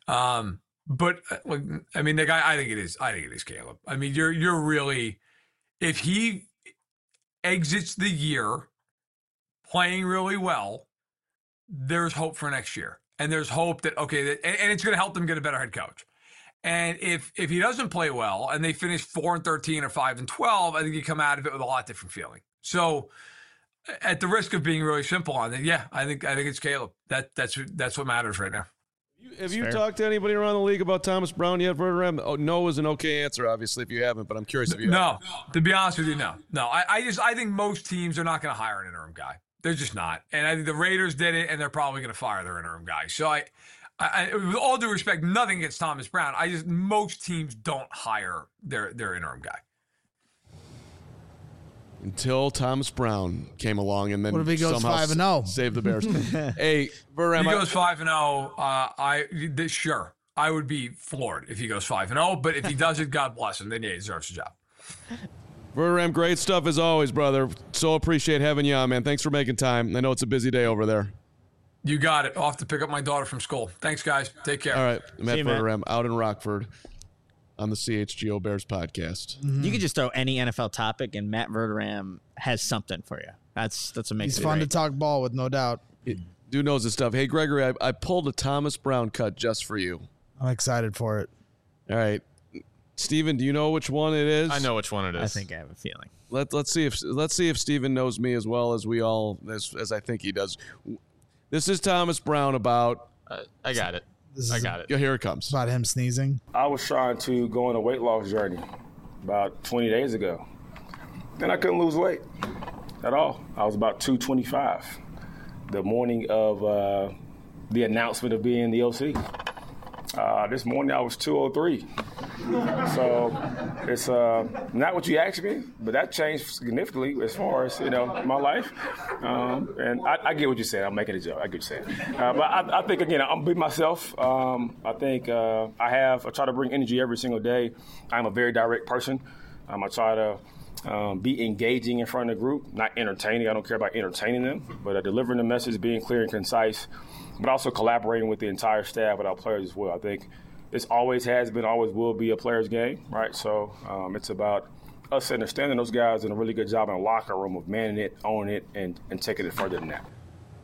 But I mean, the guy. I think it is Caleb. I mean, you're really, if he exits the year playing really well, there's hope for next year. And there's hope that, and it's going to help them get a better head coach. And if he doesn't play well and they finish 4-13 or 5-12, I think you come out of it with a lot different feeling. So at the risk of being really simple on it, yeah, I think it's Caleb. That's what matters right now. Have you talked to anybody around the league about Thomas Brown yet, Verderame? Oh, no is an okay answer, obviously, if you haven't, but I'm curious if you have. No, to be honest with you, no. I think most teams are not going to hire an interim guy. They're just not. And I think the Raiders did it, and they're probably going to fire their interim guy. So I, with all due respect, nothing against Thomas Brown. Most teams don't hire their interim guy. Until Thomas Brown came along and then what if he goes somehow 5-0? Saved the Bears. Hey, Verderame. If he goes 5-0, sure. I would be floored if he goes 5-0, but if he does it, God bless him. Then yeah, he deserves a job. Verderame, great stuff as always, brother. So appreciate having you on, man. Thanks for making time. I know it's a busy day over there. You got it. Off to pick up my daughter from school. Thanks, guys. Take care. All right. Matt Verderame out in Rockford on the CHGO Bears podcast. Mm-hmm. You could just throw any NFL topic, and Matt Verderame has something for you. That's what makes it fun to talk ball with, no doubt. Dude knows his stuff. Hey, Gregory, I pulled a Thomas Brown cut just for you. I'm excited for it. All right. Steven, do you know which one it is? I know which one it is. I think I have a feeling. Let's see if Steven knows me as well as we all as I think he does. This is Thomas Brown about. I got it. Here it comes. About him sneezing. I was trying to go on a weight loss journey about 20 days ago, and I couldn't lose weight at all. I was about 225 the morning of the announcement of being the OC. This morning I was 203. So it's not what you asked me, but that changed significantly as far as, my life. And I get what you're saying. I'm making a joke. I get what you're saying. But I think, again, I'm being myself. I think I try to bring energy every single day. I'm a very direct person. I try to be engaging in front of the group, not entertaining. I don't care about entertaining them, but delivering the message, being clear and concise, but also collaborating with the entire staff, with our players as well. I think this always has been, always will be a player's game, right? So it's about us understanding those guys doing a really good job in the locker room of manning it, owning it, and taking it further than that.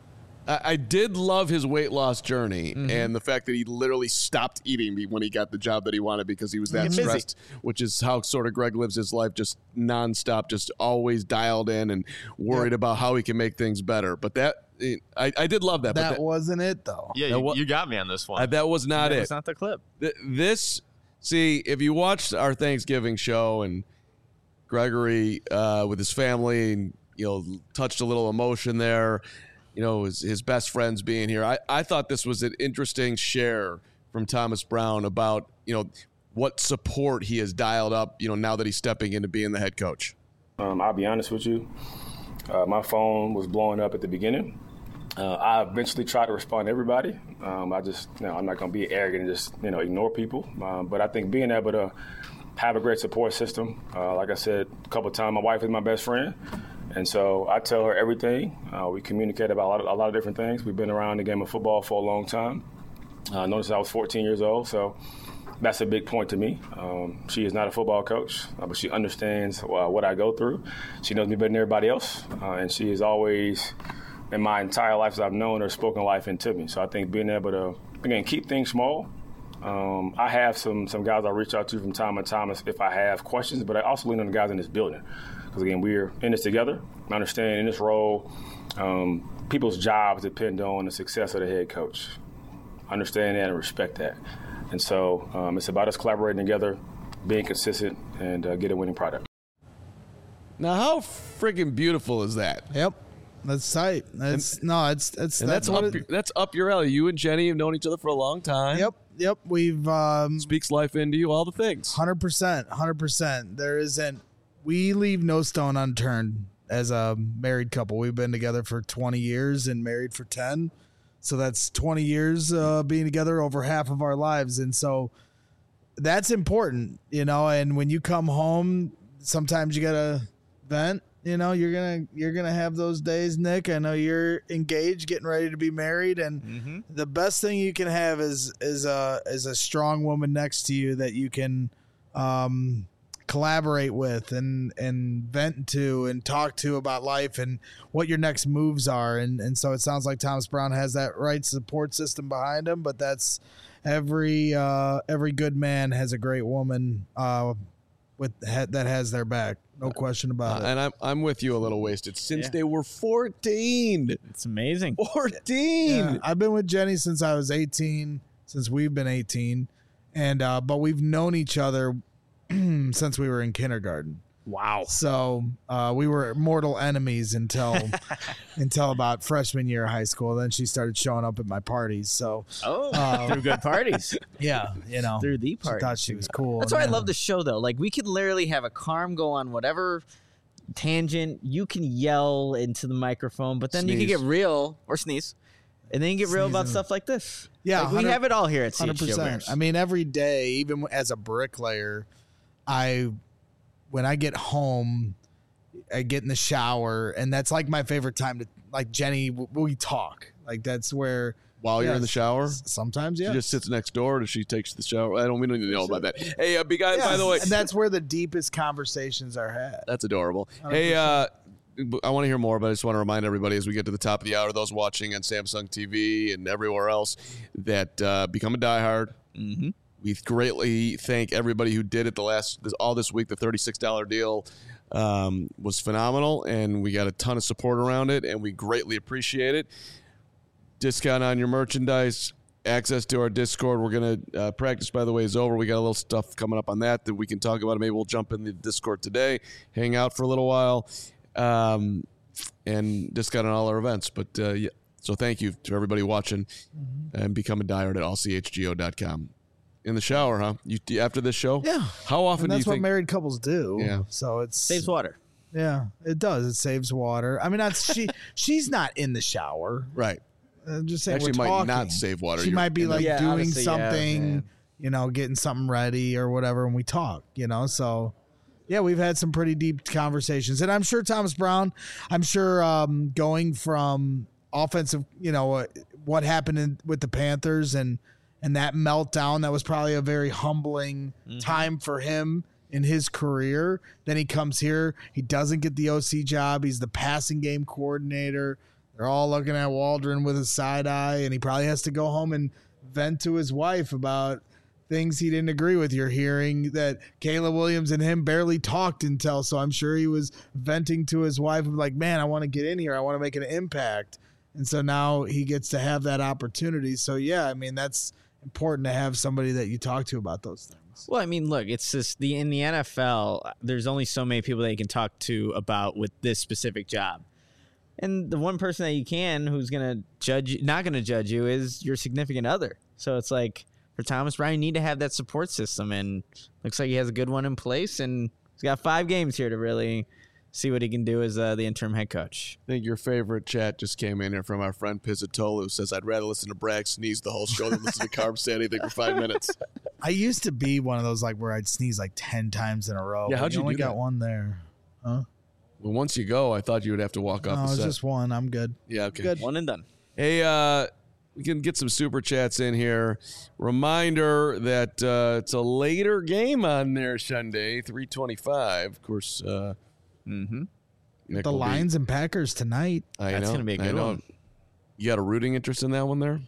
I did love his weight loss journey and the fact that he literally stopped eating when he got the job that he wanted because he was that stressed, which is how sort of Greg lives his life, just nonstop, just always dialed in and worried about how he can make things better. But I did love that. That wasn't it, though. Yeah, you got me on this one. That was not it. That's not the clip. See, if you watched our Thanksgiving show and Gregory with his family and, touched a little emotion there, his best friends being here. I thought this was an interesting share from Thomas Brown about, what support he has dialed up, now that he's stepping into being the head coach. I'll be honest with you. My phone was blowing up at the beginning. I eventually tried to respond to everybody. I'm not going to be arrogant and just, ignore people. But I think being able to have a great support system, like I said a couple of times, my wife is my best friend. And so I tell her everything. We communicate about a lot of different things. We've been around the game of football for a long time. Notice I was 14 years old, so that's a big point to me. She is not a football coach, but she understands what I go through. She knows me better than everybody else, and she has always, in my entire life as I've known her, spoken life into me. So I think being able to, again, keep things small. I have some guys I reach out to from time to time if I have questions, but I also lean on the guys in this building. Because, again, we're in this together. I understand in this role, people's jobs depend on the success of the head coach. I understand that and respect that. And so it's about us collaborating together, being consistent, and get a winning product. Now, how friggin' beautiful is that? Yep. That's tight. That's up your alley. You and Jenny have known each other for a long time. Yep. We've speaks life into you, all the things. 100%. We leave no stone unturned as a married couple. We've been together for 20 years and married for 10. So that's 20 years being together, over half of our lives. And so that's important, and when you come home, sometimes you got to vent. You're gonna have those days, Nick. I know you're engaged, getting ready to be married, and the best thing you can have is a strong woman next to you that you can collaborate with and vent to and talk to about life and what your next moves are. And so it sounds like Thomas Brown has that right support system behind him. But that's every good man has a great woman that has their back. No question about it. And I'm with you a little wasted. Since they were 14. It's amazing. 14. Yeah, I've been with Jenny since I was 18, since we've been 18. And but we've known each other since we were in kindergarten. Wow. So we were mortal enemies until about freshman year of high school. Then she started showing up at my parties. So through good parties. Yeah, through the parties. She thought she was cool. That's why I love the show, though. Like, we could literally have a Carm go on whatever tangent. You can yell into the microphone, but then you can get real or sneeze. And then you get real about stuff like this. Yeah, we have it all here at CHGO Bears. I mean, every day, even as a bricklayer, when I get home, I get in the shower, and that's like my favorite time to, like, Jenny, we talk. Like, that's where. While you're in the shower? Sometimes, yeah. She just sits next door or she takes the shower. We don't need to know about that. Hey, big guy, by the way. And that's where the deepest conversations are had. That's adorable. 100%. Hey, I want to hear more, but I just want to remind everybody as we get to the top of the hour, those watching on Samsung TV and everywhere else, that become a diehard. Mm-hmm. We greatly thank everybody who did it all this week. The $36 deal was phenomenal, and we got a ton of support around it, and we greatly appreciate it. Discount on your merchandise, access to our Discord. We're going to practice, by the way, is over. We got a little stuff coming up on that we can talk about. Maybe we'll jump in the Discord today, hang out for a little while, and discount on all our events. But yeah, so thank you to everybody watching, and become a diehard at allchgo.com. In the shower, huh? You after this show? Yeah. How often do you think? That's what married couples do. Yeah. So it saves water. Yeah, it does. It saves water. I mean, she's not in the shower. Right. I'm just saying. Actually, we're might talking. not save water. She might be like doing something, yeah. Getting something ready or whatever, and we talk. So. Yeah, we've had some pretty deep conversations, and I'm sure Thomas Brown. I'm sure going from offensive, what happened with the Panthers and that meltdown, that was probably a very humbling time for him in his career. Then he comes here, he doesn't get the OC job. He's the passing game coordinator. They're all looking at Waldron with a side eye, and he probably has to go home and vent to his wife about things he didn't agree with. You're hearing that Caleb Williams and him barely talked until, so I'm sure he was venting to his wife like, man, I want to get in here. I want to make an impact. And so now he gets to have that opportunity. So, yeah, I mean, that's important to have somebody that you talk to about those things. Well, I mean, look, it's just in the NFL, there's only so many people that you can talk to about with this specific job. And the one person that you can who's going to not going to judge you is your significant other. So it's like, for Thomas Brown, you need to have that support system, and looks like he has a good one in place, and he's got 5 games here to really see what he can do as the interim head coach. I think your favorite chat just came in here from our friend Pizzatolo, who says, I'd rather listen to Bragg sneeze the whole show than listen to Carm say anything for 5 minutes. I used to be one of those like where I'd sneeze like 10 times in a row. Yeah, how'd you only do got that? one there. Huh? Well, once you go, I thought you would have to walk off No, the it's set. just one. I'm good. Yeah, okay. Good. One and done. Hey, we can get some super chats in here. Reminder that it's a later game on there Sunday, 3:25. Of course, Nick The will be- Lions and Packers tonight. I That's know, gonna be a I good know. one. You got a rooting interest in that one there?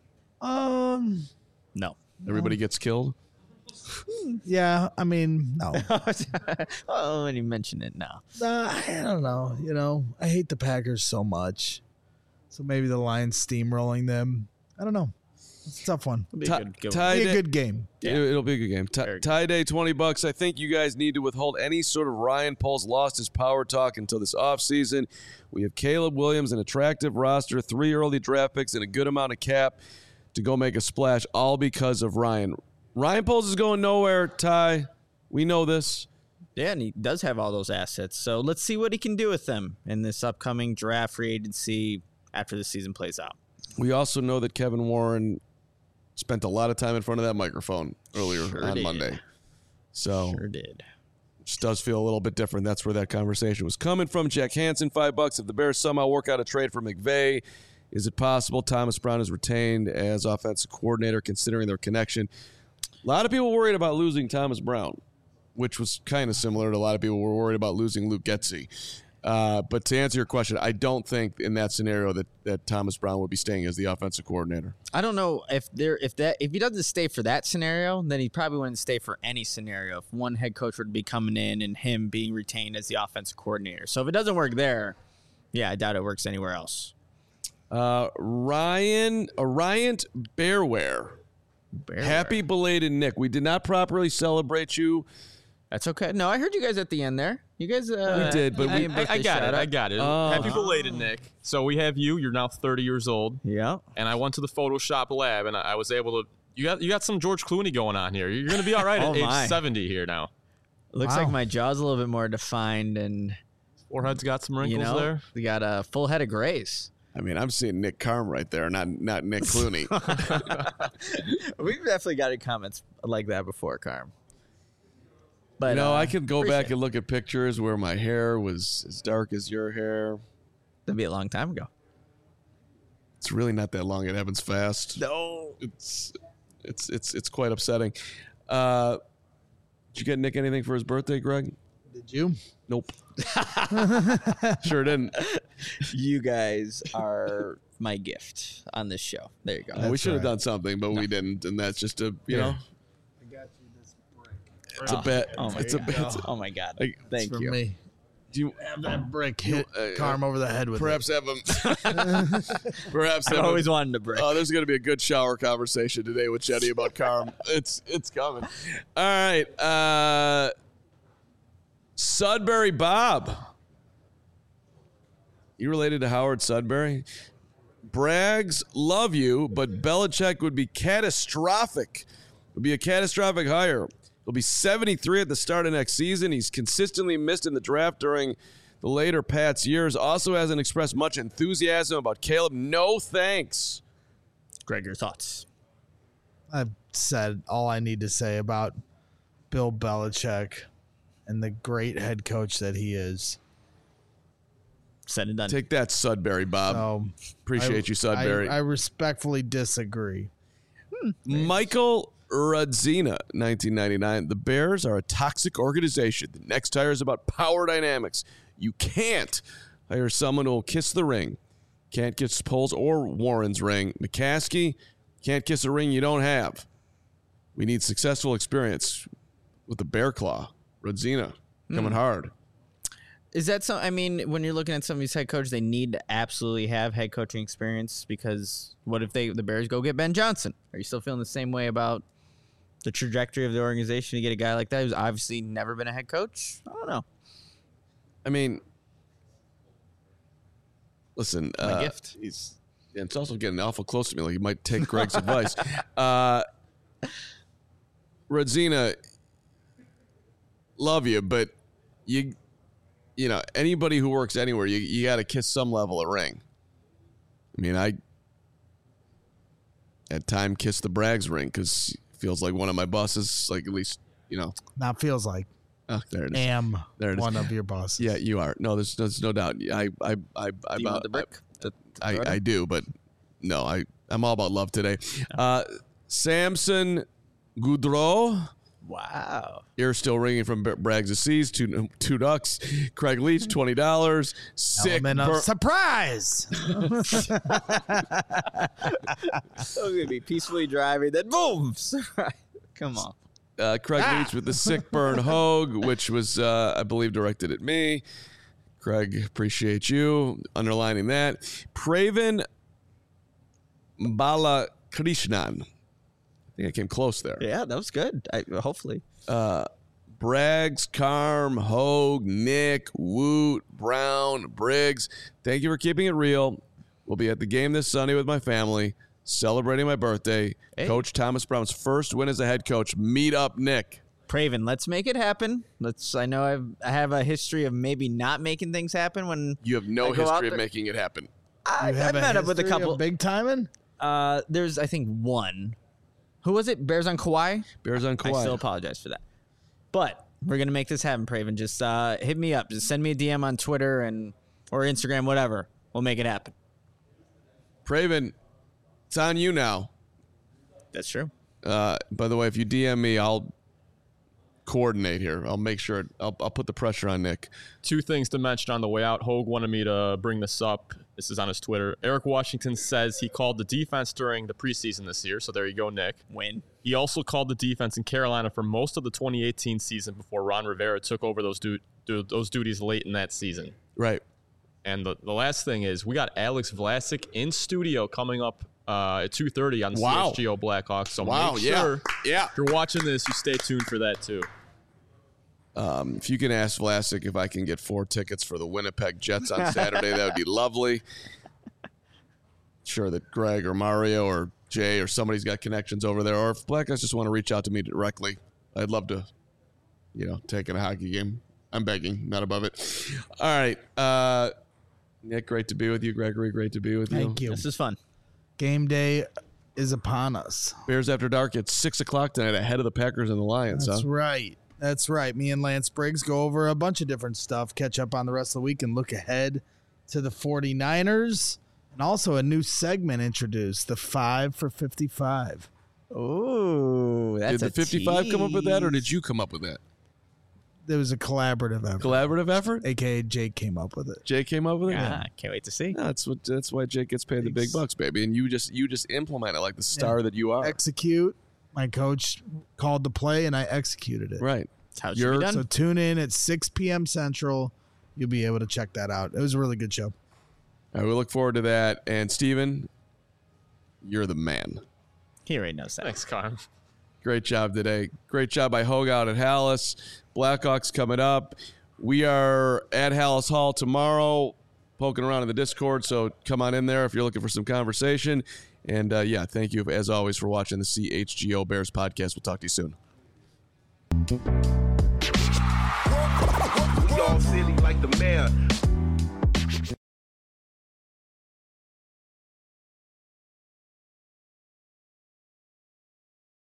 No. Everybody gets killed? Yeah, I mean, no. Oh, when you mention it now. I don't know. You know, I hate the Packers so much. So maybe the Lions steamrolling them. I don't know. It's a tough one. It'll be Ti- a good Ty Be a Day- good game. It'll be a good game. Very good. Tie day, $20. I think you guys need to withhold any sort of Ryan Poles lost his power talk until this offseason. We have Caleb Williams, an attractive roster, 3 early draft picks, and a good amount of cap to go make a splash, all because of Ryan. Ryan Poles is going nowhere, Ty. We know this. Yeah, and he does have all those assets. So let's see what he can do with them in this upcoming draft free agency after the season plays out. We also know that Kevin Warren spent a lot of time in front of that microphone earlier Sure on did. Monday. So Sure did. just does feel a little bit different. That's where that conversation was coming from. Jack Hansen, $5. If the Bears somehow work out a trade for McVay, is it possible Thomas Brown is retained as offensive coordinator considering their connection? A lot of people worried about losing Thomas Brown, which was kind of similar to a lot of people were worried about losing Luke Getsy. But to answer your question, I don't think in that scenario that Thomas Brown would be staying as the offensive coordinator. I don't know if he doesn't stay for that scenario, then he probably wouldn't stay for any scenario. If one head coach would be coming in and him being retained as the offensive coordinator. So if it doesn't work there, yeah, I doubt it works anywhere else. Ryan Bearware. Happy belated Nick. We did not properly celebrate you. That's okay. No, I heard you guys at the end there. You guys, We did, but we- I got it. Oh. Happy belated, Nick. So we have you. You're now 30 years old. Yeah. And I went to the Photoshop lab, and I was able to. You got some George Clooney going on here. You're going to be all right Oh, at my. age 70 here now. Looks Wow. like my jaw's a little bit more defined, and Forehead's got some wrinkles you know, there. we got a full head of grays. I mean, I'm seeing Nick Carm right there, not Nick Clooney. We've definitely got comments like that before, Carm. But I could go back appreciate and look at pictures where my hair was as dark as your hair. That'd be a long time ago. It's really not that long. It happens fast. No. It's quite upsetting. Did you get Nick anything for his birthday, Greg? Did you? Nope. Sure didn't. You guys are my gift on this show. There you go. We should have right. done something, but we didn't, and that's just a you know. I got you this brick. It's a bet. Oh my It's a God. bet. Oh my God. Like, Thank For you. me. Do you Have that brick hit Carm over the head with perhaps have him? Perhaps I've have always him. wanted to break. Oh, there's going to be a good shower conversation today with Chetty about Carm. It's coming. All right. Sudbury Bob. You related to Howard Sudbury? Braggs love you, but Belichick would be catastrophic. Would be a catastrophic hire. He'll be 73 at the start of next season. He's consistently missed in the draft during the later Pats years. Also hasn't expressed much enthusiasm about Caleb. No thanks. Greg, your thoughts? I've said all I need to say about Bill Belichick and the great head coach that he is. Said and done. Take that, Sudbury Bob. So Appreciate you, Sudbury. I respectfully disagree. Michael Radzina, 1999. The Bears are a toxic organization. The next hire is about power dynamics. You can't hire someone who will kiss the ring. can't kiss Poles or Warren's ring. McCaskey, can't kiss a ring you don't have. We need successful experience with the Bear Claw. Rodzina coming hard. Is that so? I mean, when you're looking at some of these head coaches, they need to absolutely have head coaching experience, because what if the Bears go get Ben Johnson? Are you still feeling the same way about the trajectory of the organization to get a guy like that who's obviously never been a head coach? I don't know. I mean, listen, My gift. It's also getting awful close to me. Like, he might take Greg's advice. Rodzina, love you, but you know, anybody who works anywhere, you got to kiss some level of ring. I mean, I at time kissed the Braggs ring because it feels like one of my bosses, like, at least, you know. Not feels like. Oh, there it is. Am there it is. one of your bosses. Yeah, you are. No, there's no doubt. I do, but no, I'm all about love today. Samson Goudreau. Wow. Ear still ringing from Braggs of Seas, two ducks. Craig Leach, $20. Sick. Element of surprise. So going to be peacefully driving, then boom. Come on. Craig Leach with the sick burn Hogue, which was, I believe, directed at me. Craig, appreciate you underlining that. Praven Balakrishnan. I think I came close there. Yeah, that was good. Hopefully. Braggs, Carm, Hogue, Nick, Woot, Brown, Briggs. Thank you for keeping it real. We'll be at the game this Sunday with my family, celebrating my birthday. Hey. Coach Thomas Brown's first win as a head coach. Meet up, Nick. Praven, let's make it happen. I know I have a history of maybe not making things happen when you have no history of making it happen. I've met up with a couple. Big timing? There's, I think, one. Who was it? Bears on Kauai? Bears on Kauai. I still apologize for that. But we're going to make this happen, Praven. Just hit me up. Just send me a DM on Twitter or Instagram, whatever. We'll make it happen. Praven, it's on you now. That's true. By the way, if you DM me, I'll coordinate here. I'll make sure. I'll put the pressure on Nick. Two things to mention on the way out. Hogue wanted me to bring this up. This is on his Twitter. Eric Washington says he called the defense during the preseason this year. So there you go, Nick. Win. He also called the defense in Carolina for most of the 2018 season before Ron Rivera took over those duties late in that season. Right. And the last thing is we got Alex Vlasic in studio coming up at 2:30 on CHGO Blackhawks. So make sure if you're watching this, you stay tuned for that too. If you can ask Vlasic if I can get 4 tickets for the Winnipeg Jets on Saturday, that would be lovely. Sure that Greg or Mario or Jay or somebody's got connections over there. Or if Blackhawks just want to reach out to me directly, I'd love to, take in a hockey game. I'm begging, not above it. All right. Nick, great to be with you. Gregory, great to be with you. Thank you. This is fun. Game day is upon us. Bears After Dark at 6 o'clock tonight, ahead of the Packers and the Lions. That's right. That's right. Me and Lance Briggs go over a bunch of different stuff, catch up on the rest of the week, and look ahead to the 49ers. And also a new segment introduced, the 5 for 55. Oh, that's Did the 55 come up with that, or did you come up with that? There was a collaborative effort. Collaborative effort? AKA Jake came up with it. Jake came up with it? Yeah, can't wait to see. No, that's why Jake gets paid the big bucks, baby. And you just implement it like the star that you are. Execute. My coach called the play, and I executed it. Right. That's how it should be done. So tune in at 6 p.m. Central. You'll be able to check that out. It was a really good show. All right, we look forward to that. And Steven, you're the man. He already knows that. Thanks, Carm. Great job today. Great job by Hogue out at Hallis. Blackhawks coming up. We are at Hallis Hall tomorrow, poking around in the Discord, so come on in there if you're looking for some conversation. And, thank you, as always, for watching the CHGO Bears podcast. We'll talk to you soon. We all silly like the mayor.